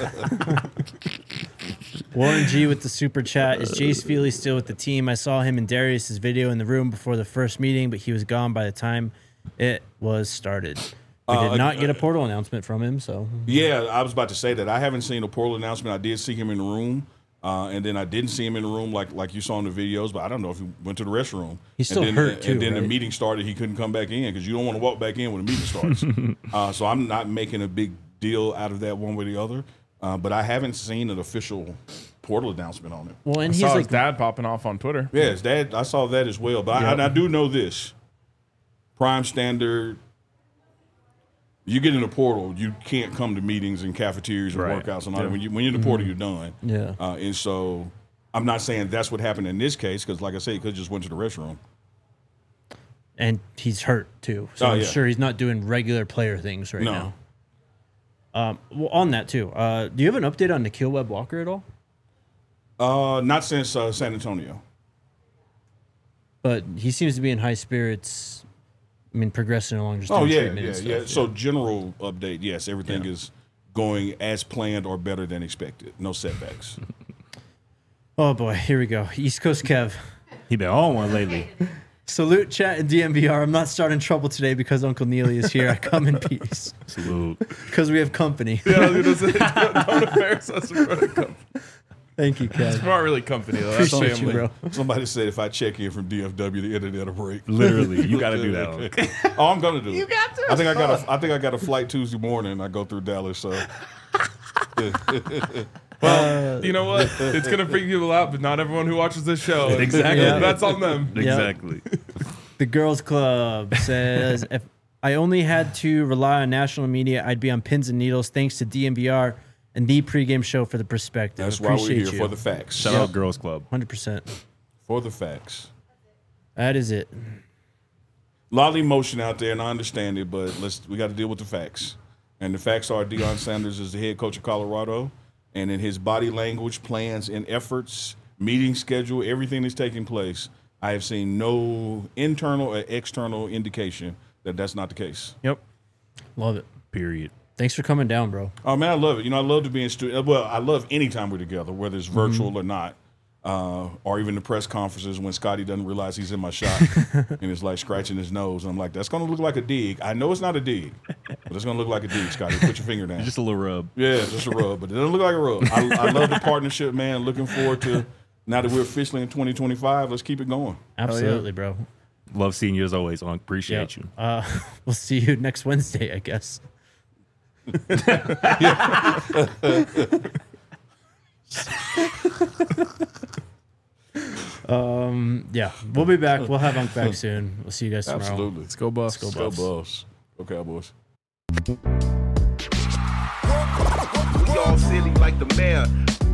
Warren G with the super chat. Is Jace Feely still with the team? I saw him in Darius's video in the room before the first meeting, but he was gone by the time it was started. We did Uh, not get a portal announcement from him, so Yeah, I was about to say that. I haven't seen a portal announcement. I did see him in the room, uh, and then I didn't see him in the room like like you saw in the videos. But I don't know if he went to the restroom. He's still and then, hurt, too, And then the right? meeting started. He couldn't come back in because you don't want to walk back in when the meeting starts. uh, so I'm not making a big deal out of that one way or the other. Uh, but I haven't seen an official portal announcement on it. well, and I he's saw like his dad popping off on Twitter. Yes, that I saw that as well. But I, and I do know this: Prime Standard. You get in the portal, you can't come to meetings and cafeterias and Right. workouts and all that. When you when you're in the portal, you're done. Yeah. Uh, and so I'm not saying that's what happened in this case because, like I said, he could have just went to the restroom. and he's hurt too, so Oh, I'm yeah. sure he's not doing regular player things right No. now. Um, well, on that too, uh, do you have an update on Nikhil Webb Walker at all? Uh, not since uh, San Antonio. But he seems to be in high spirits. I mean, progressing along just Oh doing yeah, treatment yeah, and yeah. stuff, So general update, yes, everything Yeah. is going as planned or better than expected. No setbacks. Oh boy, here we go. East Coast Kev. He been on one lately. Salute, chat, and D M V R. I'm not starting trouble today because Uncle Neely is here. I come in peace Salute. because we have company. Yeah, I was gonna say, don't, don't embarrass us in front of company. Thank you, Kev. It's not really company though. That's Appreciate family. you, bro. Somebody said if I check in from D F W, the internet will break. Literally, you got to do that. Oh, I'm gonna do it. You got to. I think I got a. I think I got a flight Tuesday morning. I go through Dallas, so Well, you know what? It's gonna freak people out, but not everyone who watches this show. Exactly. Yeah. That's on them. Exactly. The Girls Club says, if I only had to rely on national media, I'd be on pins and needles. Thanks to D M V R and the pregame show for the perspective. that's why we're Appreciate here you. for the facts. Shout out Girls Club. one hundred percent. For the facts. That is it. A lot of emotion out there, and I understand it, but let's we got to deal with the facts. And the facts are Deion Sanders is the head coach of Colorado, and in his body language, plans, and efforts, meeting schedule, everything that's taking place, I have seen no internal or external indication that that's not the case. Yep. Love it. Period. Thanks for coming down, bro. Oh man, I love it. You know, I love to be in studio. Well, I love any time we're together, whether it's virtual or not, uh, or even the press conferences when Scotty doesn't realize he's in my shot and is like scratching his nose. And I'm like, that's going to look like a dig. I know it's not a dig, but it's going to look like a dig, Scotty. Put your finger down. Just a little rub. Yeah, just a rub, but it doesn't look like a rub. I, I love the partnership, man. Looking forward to now that we're officially in twenty twenty-five. Let's keep it going. Absolutely, bro. Love seeing you as always. On appreciate you. Uh, we'll see you next Wednesday, I guess. um, yeah, we'll be back. We'll have Unc back soon. We'll see you guys tomorrow. Absolutely. Let's go, Buffs. Let's go, Buffs. Go, Cowboys. We all silly like the mayor.